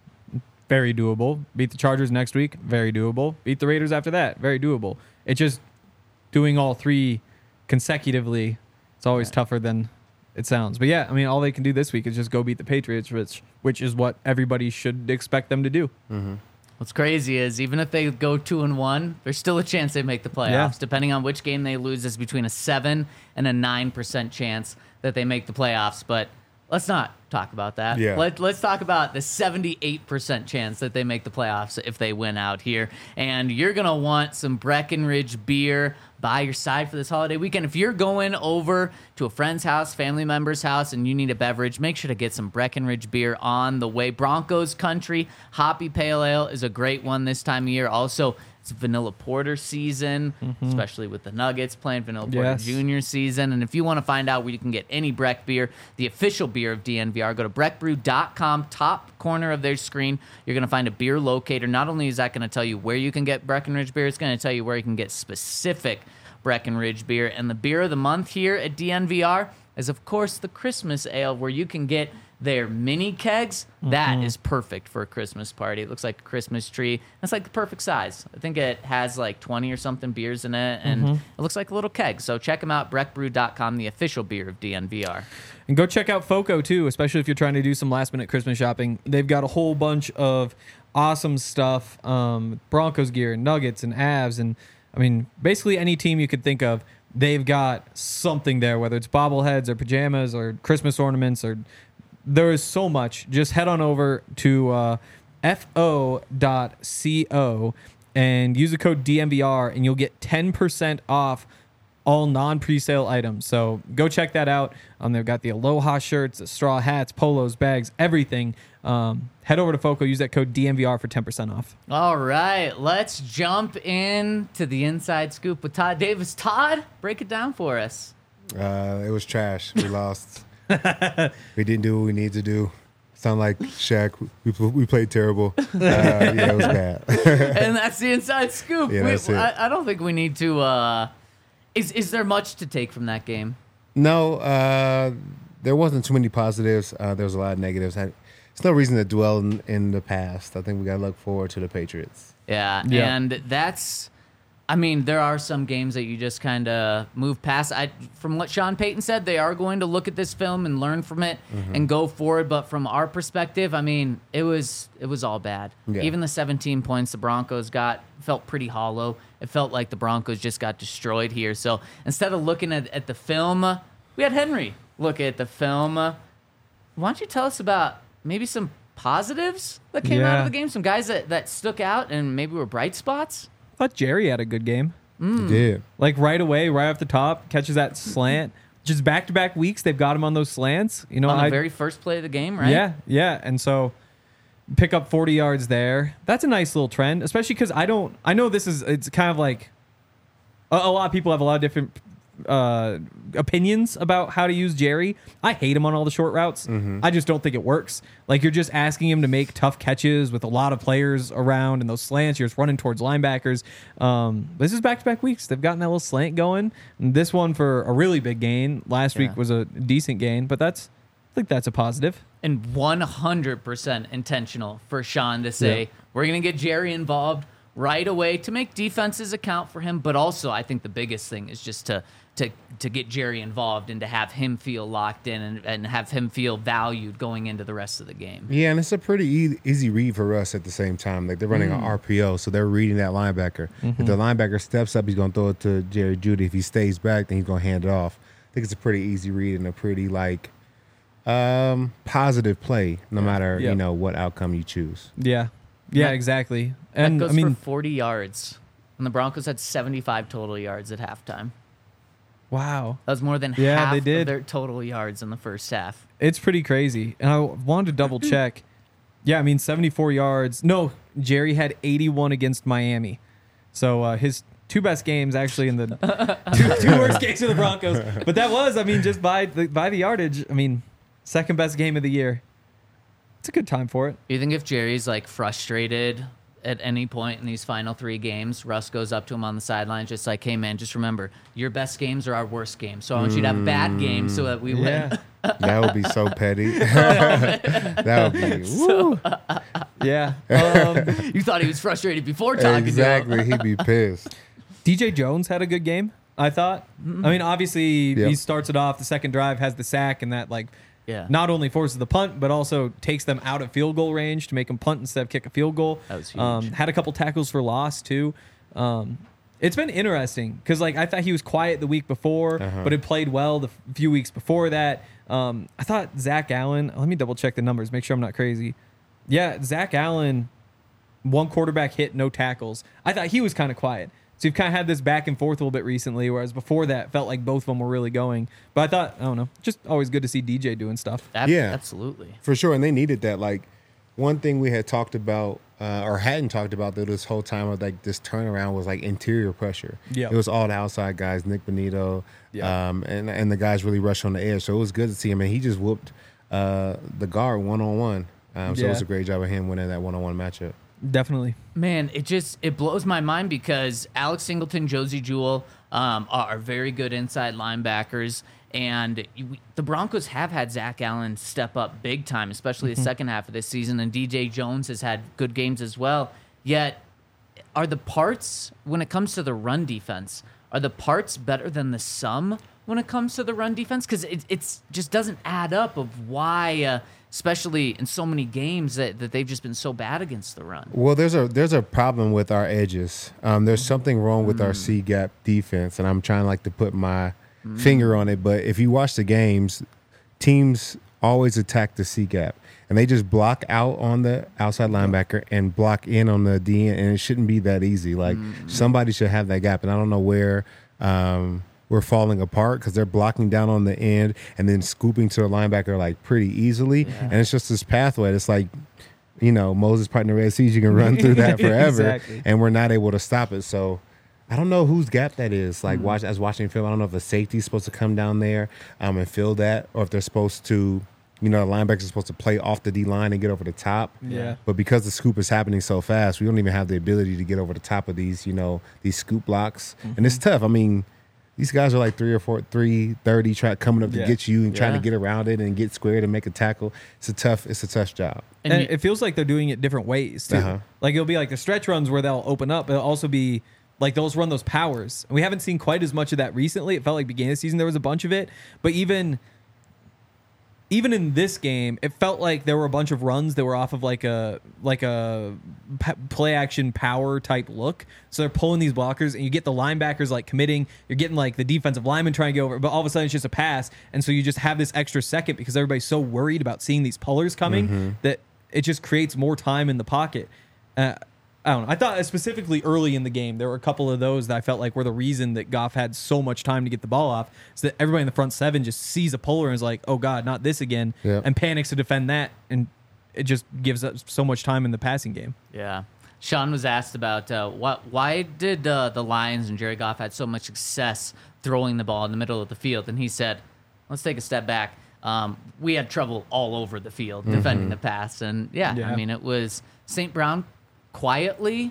Very doable. Beat the Chargers next week. Very doable. Beat the Raiders after that. Very doable. It's just doing all three consecutively. It's always right. tougher than it sounds. But yeah, I mean, all they can do this week is just go beat the Patriots, which which is what everybody should expect them to do. Mm-hmm. What's crazy is even if they go two and one, there's still a chance they make the playoffs. Yeah. Depending on which game they lose, is between a seven and a nine percent chance that they make the playoffs. But let's not talk about that. Yeah. Let, let's talk about the seventy-eight percent chance that they make the playoffs if they win out here. And you're going to want some Breckenridge beer by your side for this holiday weekend. If you're going over to a friend's house, family member's house, and you need a beverage, make sure to get some Breckenridge beer on the way. Broncos Country Hoppy Pale Ale is a great one this time of year. Also, it's vanilla porter season, mm-hmm. especially with the Nuggets playing vanilla porter yes. junior season. And if you want to find out where you can get any Breck beer, the official beer of D N V R, go to breck brew dot com, top corner of their screen. You're going to find a beer locator. Not only is that going to tell you where you can get Breckenridge beer, it's going to tell you where you can get specific Breckenridge beer. And the beer of the month here at D N V R is, of course, the Christmas Ale, where you can get their mini kegs. Mm-hmm. That is perfect for a Christmas party. It looks like a Christmas tree. It's like the perfect size. I think it has like twenty or something beers in it, and mm-hmm. it looks like a little keg. So check them out, breck brew dot com, the official beer of D N V R. And go check out FOCO, too, especially if you're trying to do some last-minute Christmas shopping. They've got a whole bunch of awesome stuff, um, Broncos gear, Nuggets, and Avs, and, I mean, basically any team you could think of, they've got something there, whether it's bobbleheads or pajamas or Christmas ornaments, or there is so much. Just head on over to uh, F O dot co and use the code D N V R, and you'll get ten percent off all non-presale items. So go check that out. Um, they've got the Aloha shirts, the straw hats, polos, bags, everything. Um, head over to FOCO, use that code D N V R for ten percent off. All right, let's jump in to the Inside Scoop with Todd Davis. Todd, break it down for us. Uh, it was trash. We lost. We didn't do what we need to do. Sound like Shaq. We we played terrible. Uh, yeah, it was bad. And that's the Inside Scoop. Yeah, we, that's it. I, I don't think we need to. Uh, is is there much to take from that game? No, uh, there wasn't too many positives. Uh, there was a lot of negatives. I, there's no reason to dwell in, in the past. I think we got to look forward to the Patriots. Yeah, Yeah. and that's. I mean, there are some games that you just kind of move past. I, from what Sean Payton said, they are going to look at this film and learn from it mm-hmm. and go forward. But from our perspective, I mean, it was it was all bad. Yeah. Even the seventeen points the Broncos got felt pretty hollow. It felt like the Broncos just got destroyed here. So instead of looking at, at the film, we had Henry look at the film. Why don't you tell us about maybe some positives that came out Yeah. of the game? Some guys that, that stuck out and maybe were bright spots? I thought Jerry had a good game. Mm. He did. Like right away, right off the top, catches that slant. Just back-to-back weeks, they've got him on those slants. You know, On the I, very first play of the game, right? Yeah, yeah. And so pick up forty yards there. That's a nice little trend, especially because I don't, I know this is, it's kind of like, a, a lot of people have a lot of different uh, opinions about how to use Jerry. I hate him on all the short routes. Mm-hmm. I just don't think it works. Like you're just asking him to make tough catches with a lot of players around, and those slants, you're just running towards linebackers. Um, this is back-to-back weeks. They've gotten that little slant going. And this one for a really big gain. Last Yeah. week was a decent gain, but that's think that's a positive. And one hundred percent intentional for Sean to say, Yeah. we're going to get Jerry involved right away to make defenses account for him. But also, I think the biggest thing is just to to to get Jerry involved and to have him feel locked in and, and have him feel valued going into the rest of the game. Yeah, and it's a pretty e- easy read for us at the same time. Like they're running Mm. an R P O, so they're reading that linebacker. Mm-hmm. If the linebacker steps up, he's going to throw it to Jerry Judy. If he stays back, then he's going to hand it off. I think it's a pretty easy read and a pretty like um, positive play, no matter Yep. you know what outcome you choose. Yeah. Yeah, That- exactly. That And goes I mean, for forty yards. And the Broncos had seventy-five total yards at halftime. wow. That was more than Yeah, half they did. of their total yards in the first half. It's pretty crazy. And I wanted to double check. Yeah, I mean, seventy-four yards. No, Jerry had eighty-one against Miami. So uh, his two best games actually in the two, two worst games of the Broncos. But that was, I mean, just by the, by the yardage, I mean, second best game of the year. It's a good time for it. You think if Jerry's like frustrated at any point in these final three games, Russ goes up to him on the sideline, just like, hey, man, just remember, your best games are our worst games. So I want you to have bad games so that we win. Yeah. That would be so petty. That would be woo. Yeah. Um, You thought he was frustrated before talking Exactly. to him. He'd be pissed. D J Jones had a good game, I thought. I mean, obviously, Yep. he starts it off. The second drive has the sack, and that, like, Yeah. not only forces the punt, but also takes them out of field goal range to make them punt instead of kick a field goal. That was huge. Um, had a couple tackles for loss, too. Um, it's been interesting because, like, I thought he was quiet the week before, Uh-huh. but had played well the f- few weeks before that. Um, I thought Zach Allen, let me double check the numbers, make sure I'm not crazy. Yeah, Zach Allen, one quarterback hit, no tackles. I thought he was kind of quiet. So you've kind of had this back and forth a little bit recently, whereas before that, felt like both of them were really going. But I thought, I don't know, just always good to see D J doing stuff. Ab- Yeah. Absolutely. For sure, and they needed that. Like one thing we had talked about, uh, or hadn't talked about though, this whole time of like this turnaround was like interior pressure. Yeah. It was all the outside guys, Nick Benito, Yeah. um, and and the guys really rushed on the edge. So it was good to see him, and he just whooped uh, the guard one on one. Um, So it was Yeah. a great job of him winning that one on one matchup. Definitely. Man, it just it blows my mind because Alex Singleton, Josie Jewell um, are, are very good inside linebackers, and you, the Broncos have had Zach Allen step up big time, especially the second half of this season, and D J Jones has had good games as well. Yet, are the parts when it comes to the run defense, are the parts better than the sum when it comes to the run defense? Because it it's just doesn't add up of why. Uh, Especially in so many games that, that they've just been so bad against the run. Well, there's a there's a problem with our edges. Um, there's something wrong with our C gap defense, and I'm trying like to put my finger on it. But if you watch the games, teams always attack the C gap, and they just block out on the outside linebacker and block in on the D N, and it shouldn't be that easy. Like somebody should have that gap, and I don't know where. Um, we're falling apart because they're blocking down on the end and then scooping to the linebacker like pretty easily. And it's just this pathway. It's like, you know, Moses part in the Red Sea. You can run through that forever, Exactly. and we're not able to stop it. So I don't know whose gap that is. Like, watch as watching film, I don't know if a safety's supposed to come down there um, and fill that, or if they're supposed to, you know, the linebackers are supposed to play off the D line and get over the top. Yeah. But because the scoop is happening so fast, we don't even have the ability to get over the top of these, you know, these scoop blocks, and it's tough. I mean. These guys are like three or four, three thirty, try coming up to Yeah. get you and trying Yeah. to get around it and get squared and make a tackle. It's a tough, it's a tough job. And And you- it feels like they're doing it different ways too. Uh-huh. Like it'll be like the stretch runs where they'll open up, but it'll also be like they'll run those powers. And we haven't seen quite as much of that recently. It felt like beginning of the season there was a bunch of it, but even even in this game, it felt like there were a bunch of runs that were off of like a like a p- play action power type look. So they're pulling these blockers, and you get the linebackers like committing. You're getting like the defensive lineman trying to get over, but all of a sudden it's just a pass, and so you just have this extra second because everybody's so worried about seeing these pullers coming that it just creates more time in the pocket. Uh, I don't know. I thought specifically early in the game, there were a couple of those that I felt like were the reason that Goff had so much time to get the ball off. So that everybody in the front seven just sees a puller and is like, oh, God, not this again, Yeah. and panics to defend that. And it just gives us so much time in the passing game. Yeah. Sean was asked about uh, what, why did uh, the Lions and Jared Goff had so much success throwing the ball in the middle of the field, and he said, "Let's take a step back. Um, we had trouble all over the field defending the pass, and yeah, Yeah. I mean it was Saint Brown quietly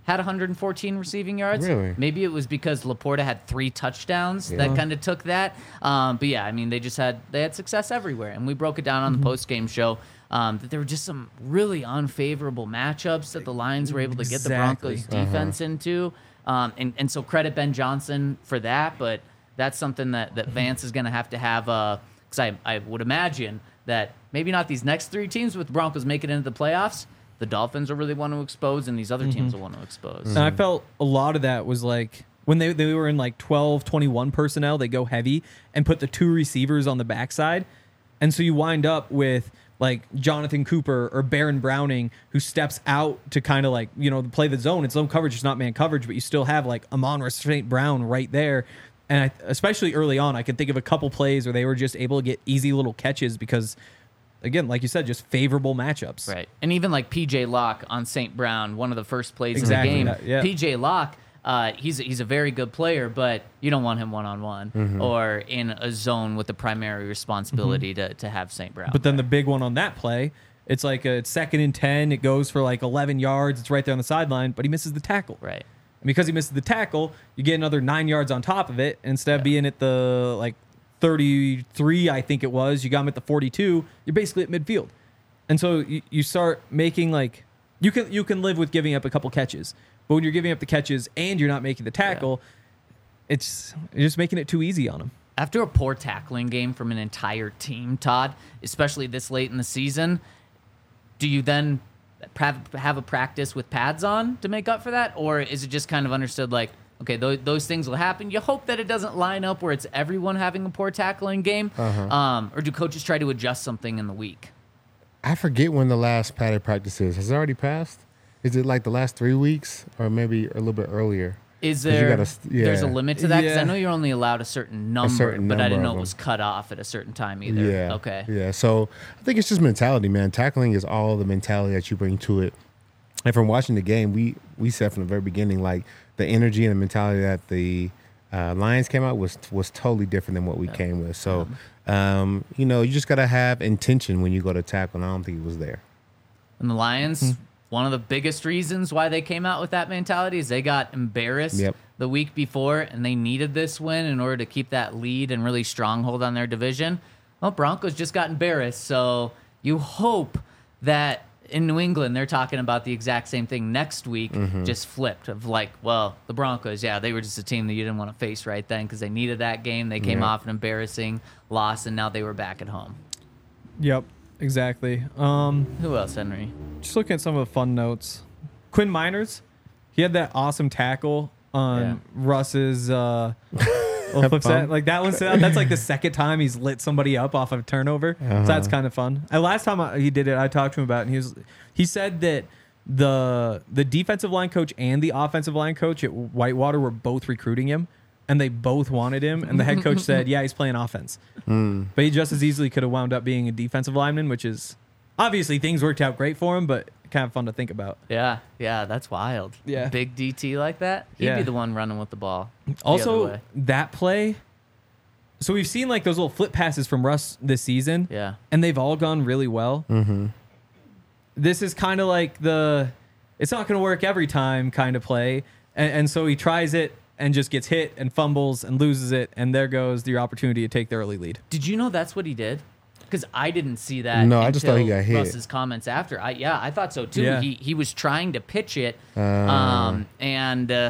had one hundred fourteen receiving yards. Really? Maybe it was because Laporta had three touchdowns Yeah. that kind of took that. Um, but yeah, I mean, they just had they had success everywhere, and we broke it down on the post game show. Um, that there were just some really unfavorable matchups that the Lions were able to get the Exactly. Broncos defense into. Um, and, and so credit Ben Johnson for that, but that's something that, that Vance is going to have to have, because I, I would imagine that maybe not these next three teams with the Broncos making it into the playoffs, the Dolphins will really want to expose, and these other teams will want to expose. And I felt a lot of that was like when they, they were in like twelve, twenty-one personnel, they go heavy and put the two receivers on the backside. And so you wind up with like Jonathan Cooper or Baron Browning, who steps out to kind of like, you know, play the zone. It's zone coverage, it's not man coverage, but you still have like Amon-Ra Saint Brown right there. And I, especially early on, I can think of a couple plays where they were just able to get easy little catches because, again, like you said, just favorable matchups. Right. And even like P J Locke on Saint Brown, one of the first plays Exactly in the that, game. yeah. P J Locke, uh, he's, he's a very good player, but you don't want him one-on-one or in a zone with the primary responsibility to, to have Saint Brown. But then the big one on that play, it's like a it's second and ten. It goes for like eleven yards. It's right there on the sideline, but he misses the tackle. Right. And because he misses the tackle, you get another nine yards on top of it. Instead of being at the like thirty-three, I think it was, you got him at the forty-two. You're basically at midfield, and so you, you start making like you can you can live with giving up a couple catches, but when you're giving up the catches and you're not making the tackle, it's you're just making it too easy on them. After a poor tackling game from an entire team, Todd, especially this late in the season, do you then have, have a practice with pads on to make up for that? Or is it just kind of understood like, okay, those, those things will happen. You hope that it doesn't line up where it's everyone having a poor tackling game. Uh-huh. Um, or do coaches try to adjust something in the week? I forget when the last padded practice is. Has it already passed? Is it like the last three weeks or maybe a little bit earlier? Is 'Cause you there, gotta st- yeah. there's a limit to that? Because I Yeah. know you're only allowed a certain number, certain but I number didn't know of it them. was cut off at a certain time either. Yeah. Okay. Yeah. So I think it's just mentality, man. Tackling is all the mentality that you bring to it. And from watching the game, we we said from the very beginning, like the energy and the mentality that the uh, Lions came out was was totally different than what we came with. So, um, you know, you just gotta have intention when you go to tackle. And I don't think it was there. And the Lions, one of the biggest reasons why they came out with that mentality is they got embarrassed Yep. the week before, and they needed this win in order to keep that lead and really stronghold on their division. Well, Broncos just got embarrassed, so you hope that in New England they're talking about the exact same thing next week, just flipped of like, well, the Broncos, yeah, they were just a team that you didn't want to face right then because they needed that game. They came Yeah. off an embarrassing loss, and now they were back at home. Yep, exactly. Um, Who else, Henry? just looking at some of the fun notes. Quinn Miners, he had that awesome tackle on Yeah. Russ's. Uh, little flip set. Like that one, that's like the second time he's lit somebody up off of a turnover. So that's kind of fun. And last time I, he did it, I talked to him about it, and he was he said that the the defensive line coach and the offensive line coach at Whitewater were both recruiting him, and they both wanted him. And the head coach said, "Yeah, he's playing offense," but he just as easily could have wound up being a defensive lineman, which is obviously things worked out great for him, but kind of fun to think about. Yeah, yeah, that's wild. Yeah. Big D T like that. He'd Yeah. be the one running with the ball. the other Also, way. that play. So we've seen like those little flip passes from Russ this season, Yeah. and they've all gone really well. Mm-hmm. This is kind of like the it's not going to work every time kind of play, and, and so he tries it and just gets hit and fumbles and loses it, and there goes your opportunity to take the early lead. Did you know that's what he did? Because I didn't see that. No, I just thought he until got hit. Russ's comments after. I yeah, I thought so too. Yeah. He he was trying to pitch it, Uh. um, and uh,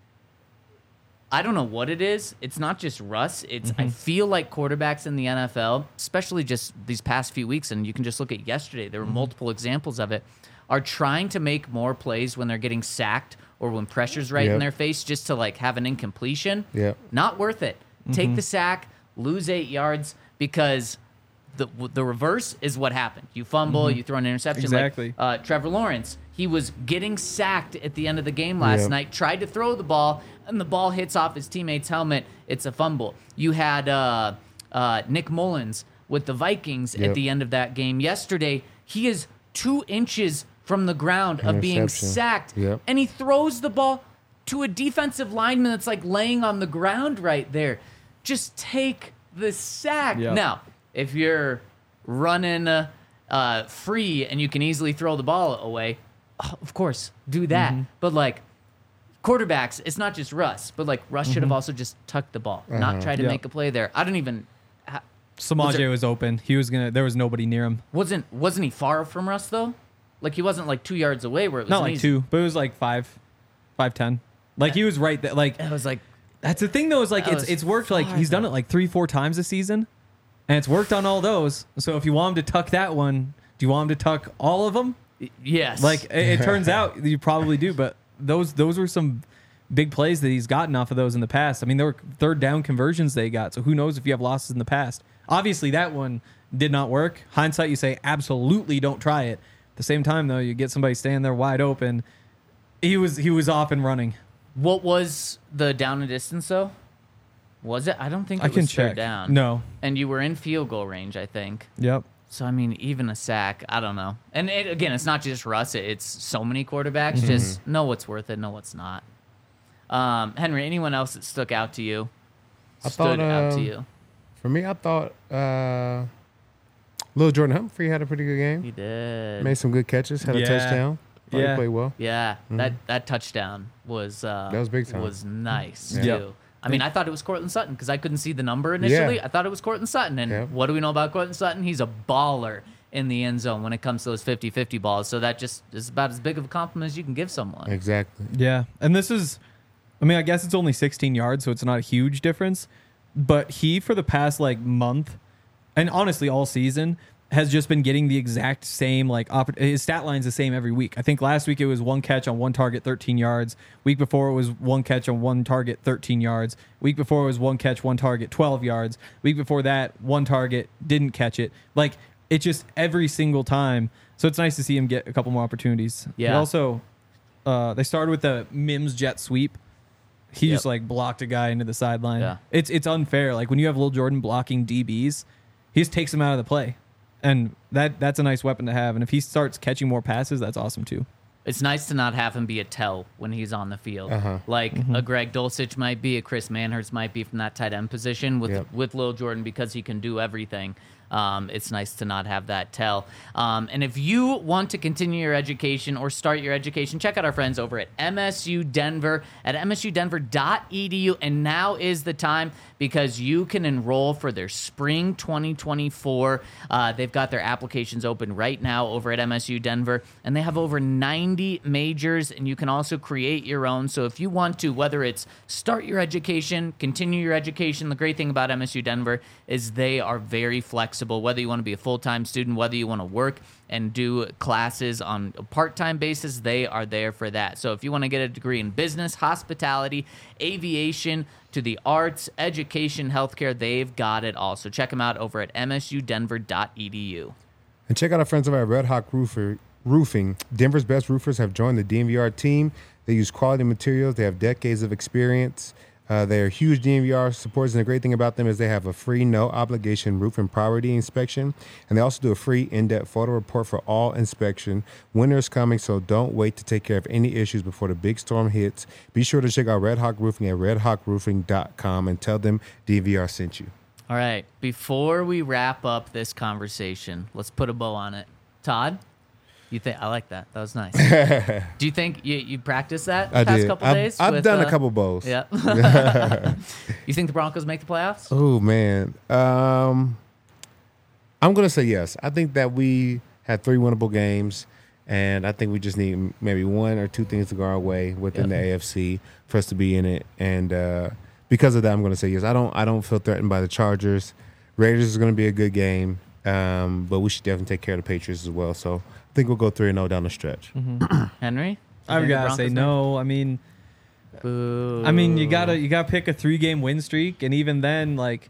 I don't know what it is. It's not just Russ. It's I feel like quarterbacks in the N F L, especially just these past few weeks, and you can just look at yesterday. There were multiple examples of it. Are trying to make more plays when they're getting sacked or when pressure's right in Yep. their face, just to like have an incompletion. Yep. Not worth it. Take the sack, lose eight yards because the the reverse is what happened. You fumble, you throw an interception. Exactly. Like, uh, Trevor Lawrence, he was getting sacked at the end of the game last Yep. night, tried to throw the ball, and the ball hits off his teammate's helmet. It's a fumble. You had uh, uh, Nick Mullins with the Vikings at Yep. the end of that game yesterday. He is two inches from the ground of being Interception. sacked, Yep. and he throws the ball to a defensive lineman that's like laying on the ground right there. Just take the sack. Yep. Now, if you're running uh, uh, free and you can easily throw the ball away, oh, of course, do that. But like, quarterbacks, it's not just Russ, but like Russ should have also just tucked the ball, not try to Yeah. make a play there. I don't even. Ha- Samaje there- was open. He was gonna. There was nobody near him. wasn't wasn't he far from Russ though? Like he wasn't like two yards away where it was Not an like easy- two, but it was like five, five ten. Like he was right there. Like It was like that's the thing though. Is like That it's was it's worked. Like far, he's done though. it like three, four times this season, and it's worked on all those. So if you want him to tuck that one, do you want him to tuck all of them? yes, Like it, it turns out you probably do, but those those were some big plays that he's gotten off of those in the past. I mean, there were third down conversions they got. So who knows if you have losses in the past? Obviously, that one did not work. Hindsight, you say absolutely don't try it. At the same time, though, you get somebody standing there wide open. He was he was off and running. what was the down and distance though? Was it? I don't think it I was can third check. down. No. and you were in field goal range, I think. Yep. So I mean, even a sack, I don't know. And it, again, it's not just Russ; it, it's so many quarterbacks. Just know what's worth it, know what's not. Um, Henry, anyone else that stuck out to you? I Stood thought, out to um, you? For me, I thought uh, Lil Jordan Humphrey had a pretty good game. He did. Made some good catches. Had a Yeah. touchdown. Thought Yeah. he played well. Yeah, that that touchdown was uh, That was big time. Was nice Yeah. too. Yep. I mean, I thought it was Cortland Sutton because I couldn't see the number initially. Yeah. I thought it was Cortland Sutton, and Yep. what do we know about Cortland Sutton? He's a baller in the end zone when it comes to those fifty-fifty balls. So that just is about as big of a compliment as you can give someone. Exactly. Yeah. And this is, I mean, I guess it's only sixteen yards, so it's not a huge difference. But he, for the past like month, and honestly all season, has just been getting the exact same like oppor- his stat line's the same every week. I think last week it was one catch on one target, thirteen yards. Week before it was one catch on one target, thirteen yards. Week before it was one catch, one target, twelve yards. Week before that, one target, didn't catch it. Like it just every single time. So it's nice to see him get a couple more opportunities. He Yeah. also, uh, they started with the Mims jet sweep. He Yep. just like blocked a guy into the sideline. Yeah. It's it's unfair. Like when you have Lil Jordan blocking D Bs, he just takes him out of the play. And that that's a nice weapon to have. And if he starts catching more passes, that's awesome too. It's nice to not have him be a tell when he's on the field. Uh-huh. Like a Greg Dulcich might be, a Chris Manhurst might be from that tight end position with Yep. with Lil Jordan because he can do everything. Um, it's nice to not have that tell. Um, and if you want to continue your education or start your education, check out our friends over at M S U Denver at m s u denver dot e d u. And now is the time because you can enroll for their spring twenty twenty-four. Uh, they've got their applications open right now over at M S U Denver, and they have over ninety majors, and you can also create your own. So if you want to, whether it's start your education, continue your education, the great thing about M S U Denver is they are very flexible. Whether you want to be a full-time student, whether you want to work and do classes on a part-time basis, they are there for that. So if you want to get a degree in business, hospitality, aviation, to the arts, education, healthcare, they've got it all. So check them out over at m s u denver dot e d u. And check out our friends over at Red Hawk Roofer, Roofing. Denver's best roofers have joined the D N V R team. They use quality materials. They have decades of experience. Uh, they are huge D N V R supporters, and the great thing about them is they have a free, no-obligation roof and property inspection, and they also do a free in-depth photo report for all inspection. Winter is coming, so don't wait to take care of any issues before the big storm hits. Be sure to check out Red Hawk Roofing at red hawk roofing dot com and tell them D N V R sent you. All right, before we wrap up this conversation, let's put a bow on it. Todd, you think I like that? That was nice. Do you think you you practiced that the I past did. couple I've, days? I've with, done uh, a couple bows. Yeah. You think the Broncos make the playoffs? Oh man, um, I'm gonna say yes. I think that we had three winnable games, and I think we just need maybe one or two things to go our way within Yep. the A F C for us to be in it. And uh, because of that, I'm gonna say yes. I don't. I don't feel threatened by the Chargers. Raiders is gonna be a good game, um, but we should definitely take care of the Patriots as well. So I think we'll go three and zero down the stretch. Henry, You I've think the got to say Broncos no. I mean, make- Boo. I mean, you gotta you gotta pick a three game win streak, and even then, like,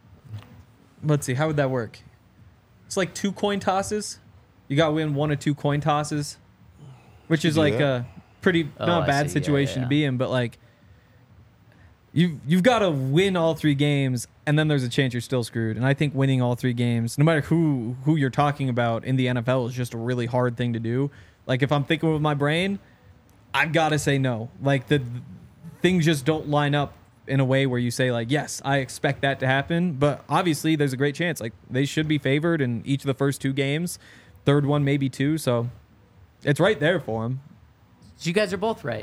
let's see, how would that work? It's like two coin tosses. You got to win one or two coin tosses, which is do like that. a pretty Oh, not I a bad see. Yeah, situation yeah. to be in, but like. You've, you've got to win all three games, and then there's a chance you're still screwed. And I think winning all three games, no matter who who you're talking about in the N F L, is just a really hard thing to do. Like, if I'm thinking with my brain, I've got to say no. Like, the things just don't line up in a way where you say, like, yes, I expect that to happen. But obviously, there's a great chance. Like, they should be favored in each of the first two games. Third one, maybe two. So it's right there for them. So you guys are both right.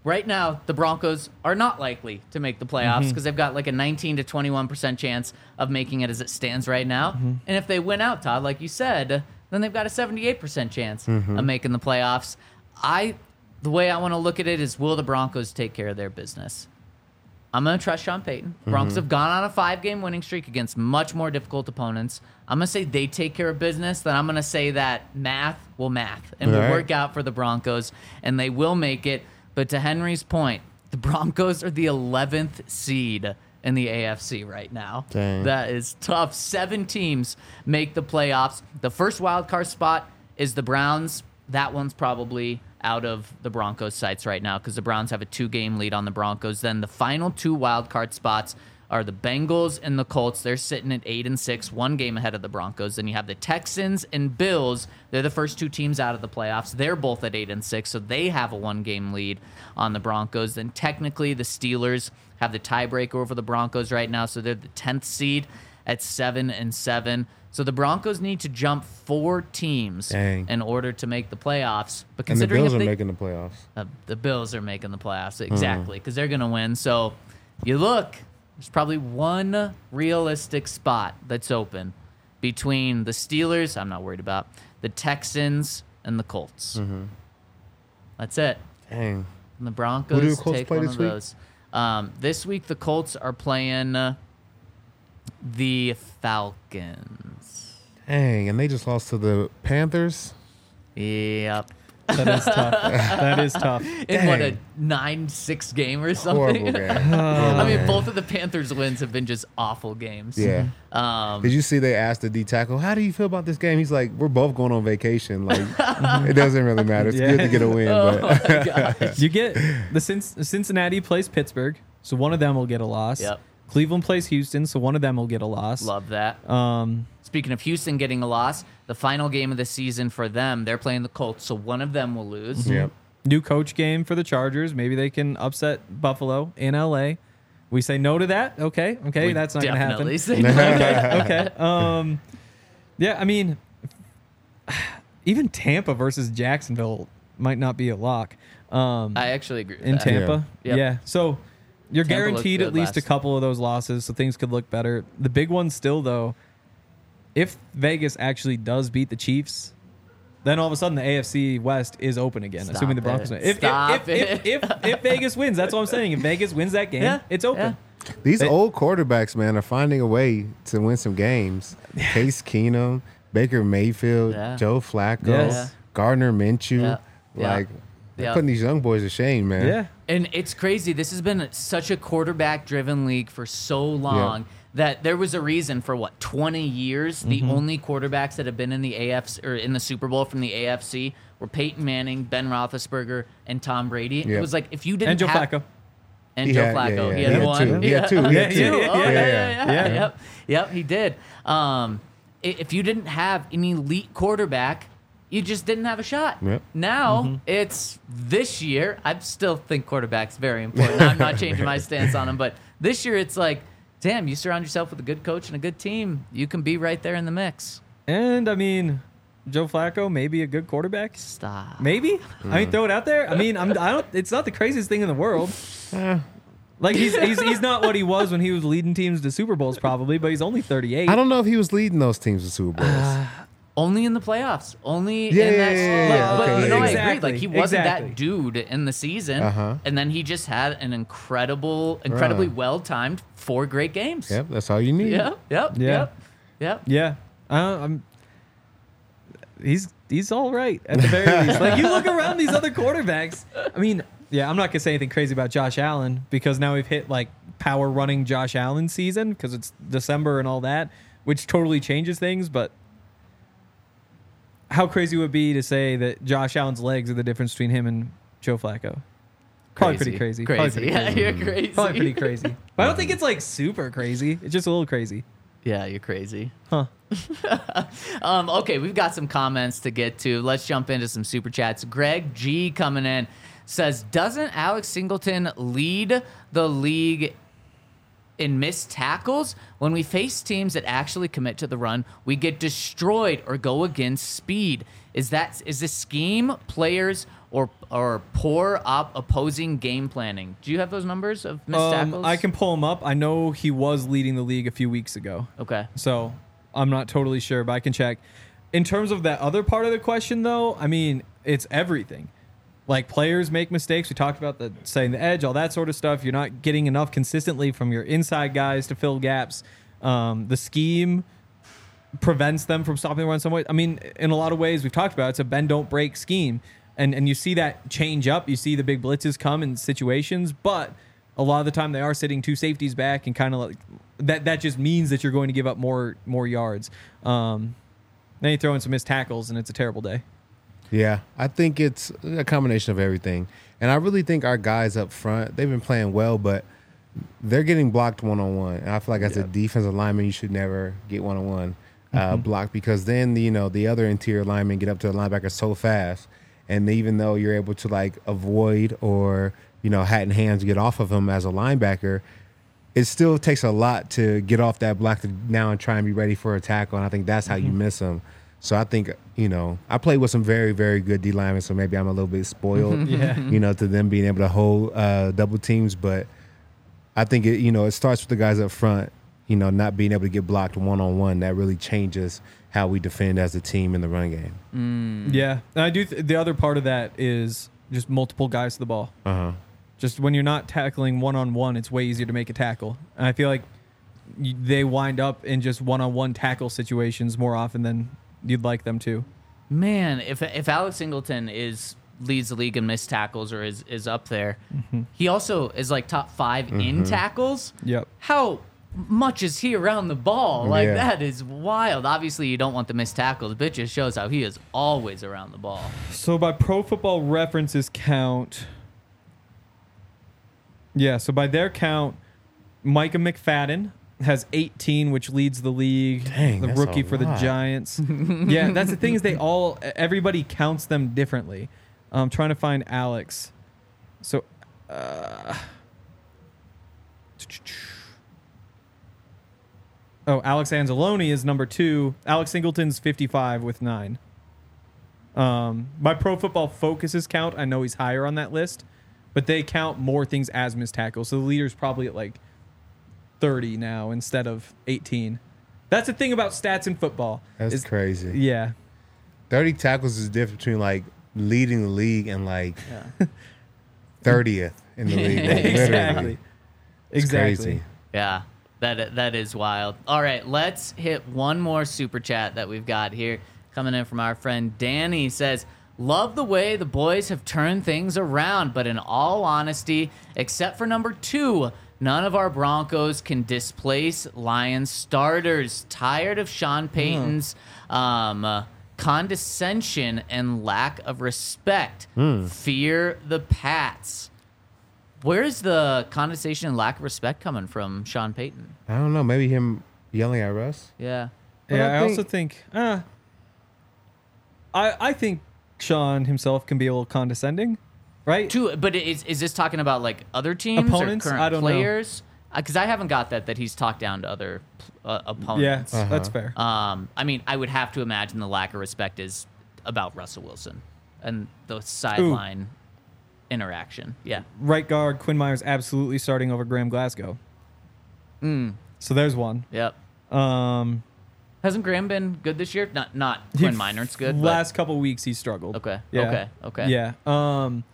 right now the Broncos are not likely to make the playoffs because they've got like a nineteen to twenty-one percent chance of making it as it stands right now. And if they win out, Todd, like you said, then they've got a seventy-eight percent chance of making the playoffs. I, the way I want to look at it is, will the Broncos take care of their business? I'm going to trust Sean Payton. Broncos have gone on a five-game winning streak against much more difficult opponents. I'm going to say they take care of business. Then I'm going to say that math will math and All will right. work out for the Broncos, and they will make it. But to Henry's point, the Broncos are the eleventh seed in the A F C right now. Dang. That is tough. Seven teams make the playoffs. The first wild card spot is the Browns. That one's probably out of the Broncos' sights right now because the Browns have a two-game lead on the Broncos. Then the final two wild card spots are the Bengals and the Colts. They're sitting at eight and six, one game ahead of the Broncos. Then you have the Texans and Bills. They're the first two teams out of the playoffs. They're both at eight and six, so they have a one-game lead on the Broncos. Then technically the Steelers have the tiebreaker over the Broncos right now, so they're the tenth seed at seven and seven. So the Broncos need to jump four teams Dang. in order to make the playoffs. But And the considering Bills if are they, making the playoffs. uh, the Bills are making the playoffs exactly because they're going to win. So you look, there's probably one realistic spot that's open between the Steelers. I'm not worried about the Texans and the Colts. That's it. Dang. And the Who Broncos do the Colts take play one this of week? those. Um, this week the Colts are playing uh, the Falcons. Dang. And they just lost to the Panthers. Yep. That is tough. That is tough. In what, a Dang. nine six game or something? Horrible game. I mean, both of the Panthers' wins have been just awful games. Yeah. Um, Did you see they asked the D tackle, how do you feel about this game? He's like, we're both going on vacation. Like, it doesn't really matter. It's Yeah. good to get a win. oh But my gosh. You get the Cin- Cincinnati plays Pittsburgh, so one of them will get a loss. Yep. Cleveland plays Houston, so one of them will get a loss. Love that. Um, Speaking of Houston getting a loss, the final game of the season for them, they're playing the Colts, so one of them will lose. yep. new coach game for the Chargers. Maybe they can upset Buffalo in L A. We say no to that. Okay, okay, We that's not going to happen. definitely say no. okay, okay. Um, yeah, I mean, even Tampa versus Jacksonville might not be a lock. Um, I actually agree with in that. Tampa, Yeah. yeah. Yep. So you're Tampa looked guaranteed good at least a last- couple of those losses, so things could look better. The big one still, though, if Vegas actually does beat the Chiefs, then all of a sudden the A F C West is open again, Stop assuming the Broncos it. win. If, Stop if, if, it. if, if, if Vegas wins, that's what I'm saying. If Vegas wins that game, Yeah, it's open. These They- old quarterbacks, man, are finding a way to win some games. Case Keenum, Baker Mayfield, Yeah. Joe Flacco, Yes. Gardner Minshew. Yeah. Yeah. Like, they're Yeah. putting these young boys to shame, man. Yeah. And it's crazy. This has been such a quarterback-driven league for so long that there was a reason for what twenty years. The only quarterbacks that have been in the A F C or in the Super Bowl from the A F C were Peyton Manning, Ben Roethlisberger, and Tom Brady. It Yep. was like if you didn't And Joe have, Flacco. and He Joe had- yeah, Flacco, yeah, he yeah. had He had one. two. He had two. He had two. two. Oh, Yeah, yeah, yeah, yeah, yeah. Yep, yep, he did. Um, i- if you didn't have an elite quarterback, you just didn't have a shot. Yep. Now it's this year. I still think quarterback's very important. I'm not changing my stance on him, but this year it's like, damn, you surround yourself with a good coach and a good team, you can be right there in the mix. And I mean, Joe Flacco may be a good quarterback. Stop. Maybe. I mean, throw it out there. I mean, I'm. I don't. It's not the craziest thing in the world. Like he's he's he's not what he was when he was leading teams to Super Bowls, probably. But he's only thirty-eight. I don't know if he was leading those teams to Super Bowls. Only in the playoffs. Only Yeah, in yeah, that. yeah, like, yeah, but okay, you know, yeah, I exactly, agree. Like he wasn't exactly. that dude in the season, Uh-huh. and then he just had an incredible, incredibly Right. well timed four great games. Yep, that's all you need. Yep. Yep. Yeah. Yep. Yep. Yeah. Uh, I'm. He's he's all right at the very least. Like you look around these other quarterbacks. I mean, yeah, I'm not gonna say anything crazy about Josh Allen because now we've hit like power running Josh Allen season because it's December and all that, which totally changes things. But how crazy would it be to say that Josh Allen's legs are the difference between him and Joe Flacco? Probably pretty crazy. Probably Crazy. pretty Yeah, crazy. you're crazy. Probably pretty crazy. But I don't think it's like super crazy. It's just a little crazy. Yeah, you're crazy. Huh. Um, okay, we've got some comments to get to. Let's jump into some super chats. Greg G coming in says, doesn't Alex Singleton lead the league in missed tackles, when we face teams that actually commit to the run, we get destroyed or go against speed. Is that is this scheme, players, or or poor op opposing game planning? Do you have those numbers of missed Um, tackles? I can pull him up. I know he was leading the league a few weeks ago. Okay. So I'm not totally sure, but I can check. In terms of that other part of the question, though, I mean, it's everything. Like, players make mistakes. We talked about the setting the edge, all that sort of stuff. You're not getting enough consistently from your inside guys to fill gaps. Um, the scheme prevents them from stopping the run some way. I mean, in a lot of ways, we've talked about it, it's a bend, don't break scheme. And, and you see that change up. You see the big blitzes come in situations, but a lot of the time they are sitting two safeties back and kind of like that. That just means that you're going to give up more more yards. Um, then you throw in some missed tackles, and it's a terrible day. Yeah, I think it's a combination of everything. And I really think our guys up front, they've been playing well, but they're getting blocked one-on-one. And I feel like as Yeah. a defensive lineman, you should never get one-on-one uh, blocked because then, you know, the other interior linemen get up to the linebacker so fast. And even though you're able to, like, avoid or, you know, hat in hands get off of them as a linebacker, it still takes a lot to get off that block to now and try and be ready for a tackle. And I think that's how you miss them. So I think, you know, I played with some very, very good D linemen, so maybe I'm a little bit spoiled, Yeah. you know, to them being able to hold uh, double teams. But I think, it, you know, it starts with the guys up front, you know, not being able to get blocked one-on-one. That really changes how we defend as a team in the run game. Mm. Yeah, and I do. Th- the other part of that is just multiple guys to the ball. Uh-huh. Just when you're not tackling one-on-one, it's way easier to make a tackle. And I feel like you, they wind up in just one-on-one tackle situations more often than you'd like them to. Man, if if Alex Singleton is leads the league in missed tackles or is is up there, Mm-hmm. he also is like top five in tackles. Yep. How much is he around the ball? Like Yeah. that is wild. Obviously, you don't want the missed tackles, but it just shows how he is always around the ball. So by Pro Football References count, yeah, so by their count, Micah McFadden has eighteen, which leads the league. Dang, the that's rookie a for the lot. Giants. Yeah, that's the thing is they all everybody counts them differently. I'm trying to find Alex. So, uh, oh, Alex Anzalone is number two. Alex Singleton's fifty-five with nine. Um, by Pro Football Focus's count, I know he's higher on that list, but they count more things as missed tackles. So the leader's probably at like thirty now instead of eighteen. That's the thing about stats in football. That's is- crazy. Yeah. thirty tackles is different between, like, leading the league and, like, Yeah. thirtieth in the league. Like, exactly. literally. It's Exactly. crazy. Yeah, that that is wild. All right, let's hit one more super chat that we've got here coming in from our friend Danny. Says, love the way the boys have turned things around, but in all honesty, except for number two, none of our Broncos can displace Lions starters. Tired of Sean Payton's um, uh, condescension and lack of respect. Fear the Pats. Where's the condescension and lack of respect coming from Sean Payton? I don't know. Maybe him yelling at Russ? Yeah. But Yeah, I I, think- also think uh, I I think Sean himself can be a little condescending, right? Two, but is is this talking about like other teams Opponents? or current I don't know. players? Because I haven't got that that he's talked down to other uh, Yeah, opponents. Uh-huh. that's fair. Um, I mean, I would have to imagine the lack of respect is about Russell Wilson and the sideline interaction. Yeah. Right guard Quinn Myers absolutely starting over Graham Glasgow. Mm, So there's one. yep. Um, Hasn't Graham been good this year? Not not he- Quinn Minor's good. but- Last couple weeks he struggled. Okay. Yeah. Okay. Okay. Yeah. Um,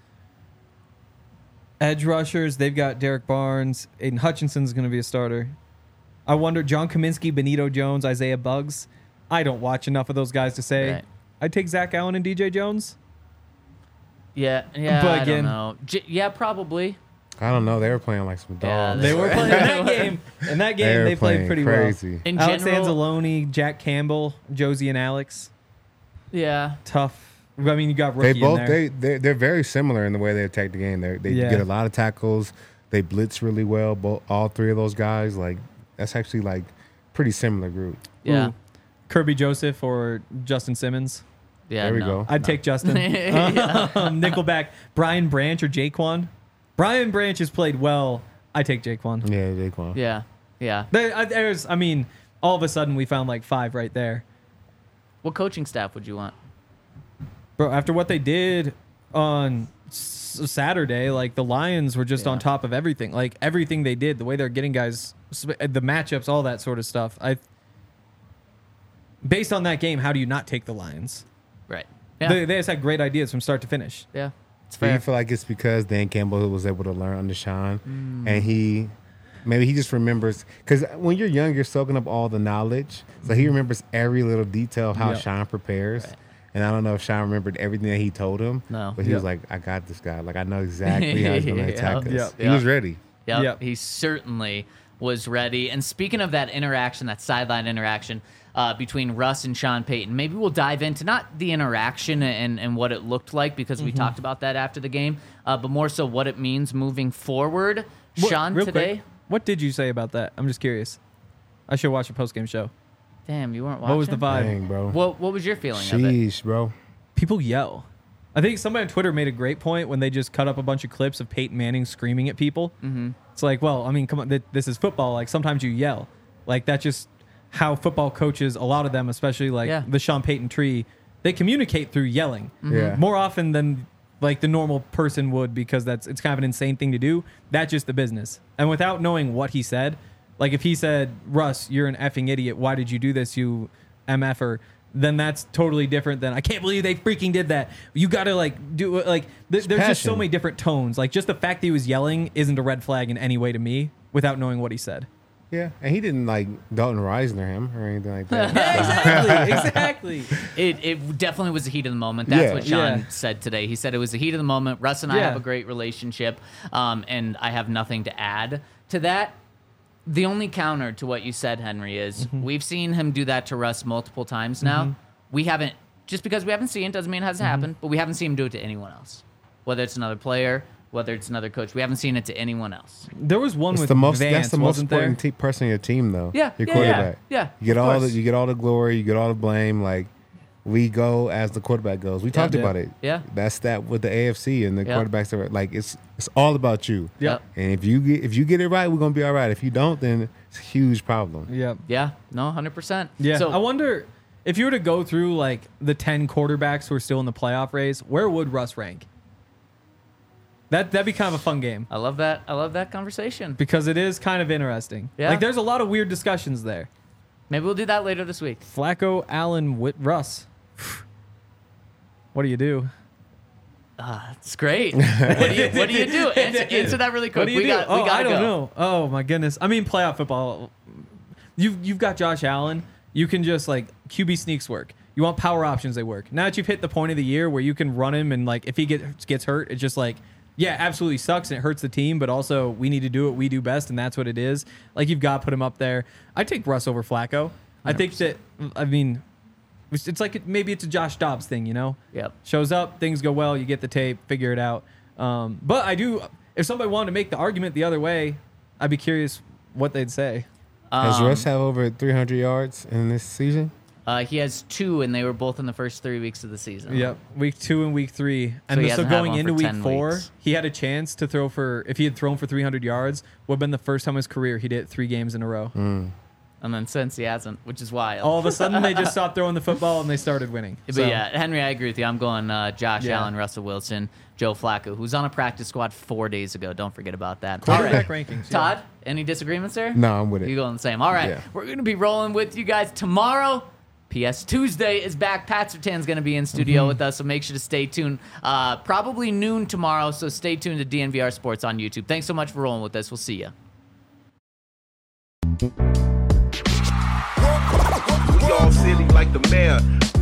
edge rushers, they've got Derek Barnes. Aiden Hutchinson's going to be a starter. I wonder, John Kaminsky, Benito Jones, Isaiah Buggs. I don't watch enough of those guys to say. Right. I'd take Zach Allen and D J Jones. Yeah. Yeah. But I again- don't know. J- yeah, probably. I don't know. They were playing like some Yeah, dogs. They were playing in that game. In that game, were they played playing pretty crazy. In well. Alex general, Anzalone, Jack Campbell, Josie and Alex. yeah. Tough. I mean, you got They rookie both in there. they they're, they're very similar in the way they attack the game. They they Yeah. get a lot of tackles. They blitz really well. Both all three of those guys, like that's actually like pretty similar group. Yeah. Ooh. Kirby Joseph or Justin Simmons. Yeah. There we no. go. I'd take Justin. um, Nickelback, Brian Branch or Jaquan. Brian Branch has played well. I take Jaquan. Yeah, Jaquan. Yeah. Yeah. There, uh, there's, I mean, all of a sudden we found like five right there. What coaching staff would you want? Bro, after what they did on s- Saturday, like the Lions were just Yeah. on top of everything. Like everything they did, the way they're getting guys, sp- the matchups, all that sort of stuff. I, based on that game, how do you not take the Lions? Right. Yeah. They, they just had great ideas from start to finish. yeah. It's Do you fair. feel like it's because Dan Campbell was able to learn under Sean, and he maybe he just remembers because when you're young, you're soaking up all the knowledge, so he remembers every little detail of how Yep. Sean prepares. Right. And I don't know if Sean remembered everything that he told him, No. but he was Yep. like, "I got this guy. Like I know exactly how he's going to attack Yep. us." Yep. He Yep. was ready. Yep. Yep. He certainly was ready. And speaking of that interaction, that sideline interaction uh, between Russ and Sean Payton, maybe we'll dive into not the interaction and, and what it looked like because we talked about that after the game, uh, but more so what it means moving forward. What- Sean, real today. quick, what did you say about that? I'm just curious. I should watch a post game show. Damn, you weren't watching? What was the vibe? Dang, bro. What, what was your feeling of it? Sheesh, bro. People yell. I think somebody on Twitter made a great point when they just cut up a bunch of clips of Peyton Manning screaming at people. Mm-hmm. It's like, well, I mean, come on, th- this is football. Like sometimes you yell. Like that's just how football coaches, a lot of them, especially like Yeah. the Sean Payton tree, they communicate through yelling Yeah. more often than like the normal person would because that's it's kind of an insane thing to do. That's just the business. And without knowing what he said, like if he said, Russ, you're an effing idiot. Why did you do this, you M F-er? Then that's totally different than I can't believe they freaking did that. You got to like do like th- there's just so passion. many different tones. Like just the fact that he was yelling isn't a red flag in any way to me without knowing what he said. Yeah, and he didn't like Dalton Reisner him or anything like that. exactly, exactly. It, it definitely was the heat of the moment. That's Yeah. what Sean Yeah. said today. He said it was the heat of the moment. Russ and I Yeah. have a great relationship, um, and I have nothing to add to that. The only counter to what you said, Henry, is Mm-hmm. we've seen him do that to Russ multiple times now. We haven't, just because we haven't seen it doesn't mean it hasn't Mm-hmm. happened, but we haven't seen him do it to anyone else. Whether it's another player, whether it's another coach, we haven't seen it to anyone else. There was one It's with the most. Vance, that's the most wasn't there? important te- person on your team, though. Yeah, your yeah, quarterback. yeah, yeah, You get of all the course. you get all the glory. You get all the blame. Like we go as the quarterback goes. We talked Yeah. about it. Yeah. That's that with the A F C and the Yeah. quarterbacks are like it's it's all about you. Yep. And if you get if you get it right, we're gonna be all right. If you don't, then it's a huge problem. Yeah. Yeah, no, one hundred percent. Yeah. So, I wonder if you were to go through like the ten quarterbacks who are still in the playoff race, where would Russ rank? That that'd be kind of a fun game I love that. I love that conversation. because it is kind of interesting. Yeah. Like there's a lot of weird discussions there. Maybe we'll do that later this week. Flacco, Allen, Whit, Russ. What do you do? Ah, it's great. What do you What do you do? Answer, answer that really quick. What do you we do? got. oh, we gotta I don't go. know. Oh my goodness. I mean, playoff football. You've you've got Josh Allen. You can just like Q B sneaks work. You want power options, they work. Now that you've hit the point of the year where you can run him and like if he gets gets hurt, it's just like yeah, absolutely sucks and it hurts the team. But also we need to do what we do best, and that's what it is. Like you've got to put him up there. I take Russ over Flacco. I think that I mean, it's it's like maybe it's a Josh Dobbs thing, you know. Yep. Shows up, things go well, you get the tape, figure it out. Um, but I do, if somebody wanted to make the argument the other way, I'd be curious what they'd say. Does Um, Russ have over three hundred yards in this season? Uh, he has two, and they were both in the first three weeks of the season. Yep, week two and week three, and he so hasn't had going one into for week ten four, weeks. he had a chance to throw for. If he had thrown for three hundred yards, would have been the first time in his career he did it three games in a row. And then since he hasn't, which is wild. All of a sudden, they just stopped throwing the football and they started winning. But So, yeah, Henry, I agree with you. I'm going uh, Josh Yeah. Allen, Russell Wilson, Joe Flacco, who's on a practice squad four days ago. Don't forget about that. quarterback All right. rankings. yeah. Todd, any disagreements there? No, I'm with it. You going the same. All right. Yeah. We're going to be rolling with you guys tomorrow. P S Tuesday is back. Pat Sertan's going to be in studio Mm-hmm. with us, so make sure to stay tuned. Uh, probably noon tomorrow, so stay tuned to D N V R Sports on YouTube. Thanks so much for rolling with us. We'll see you. We all silly like the mayor.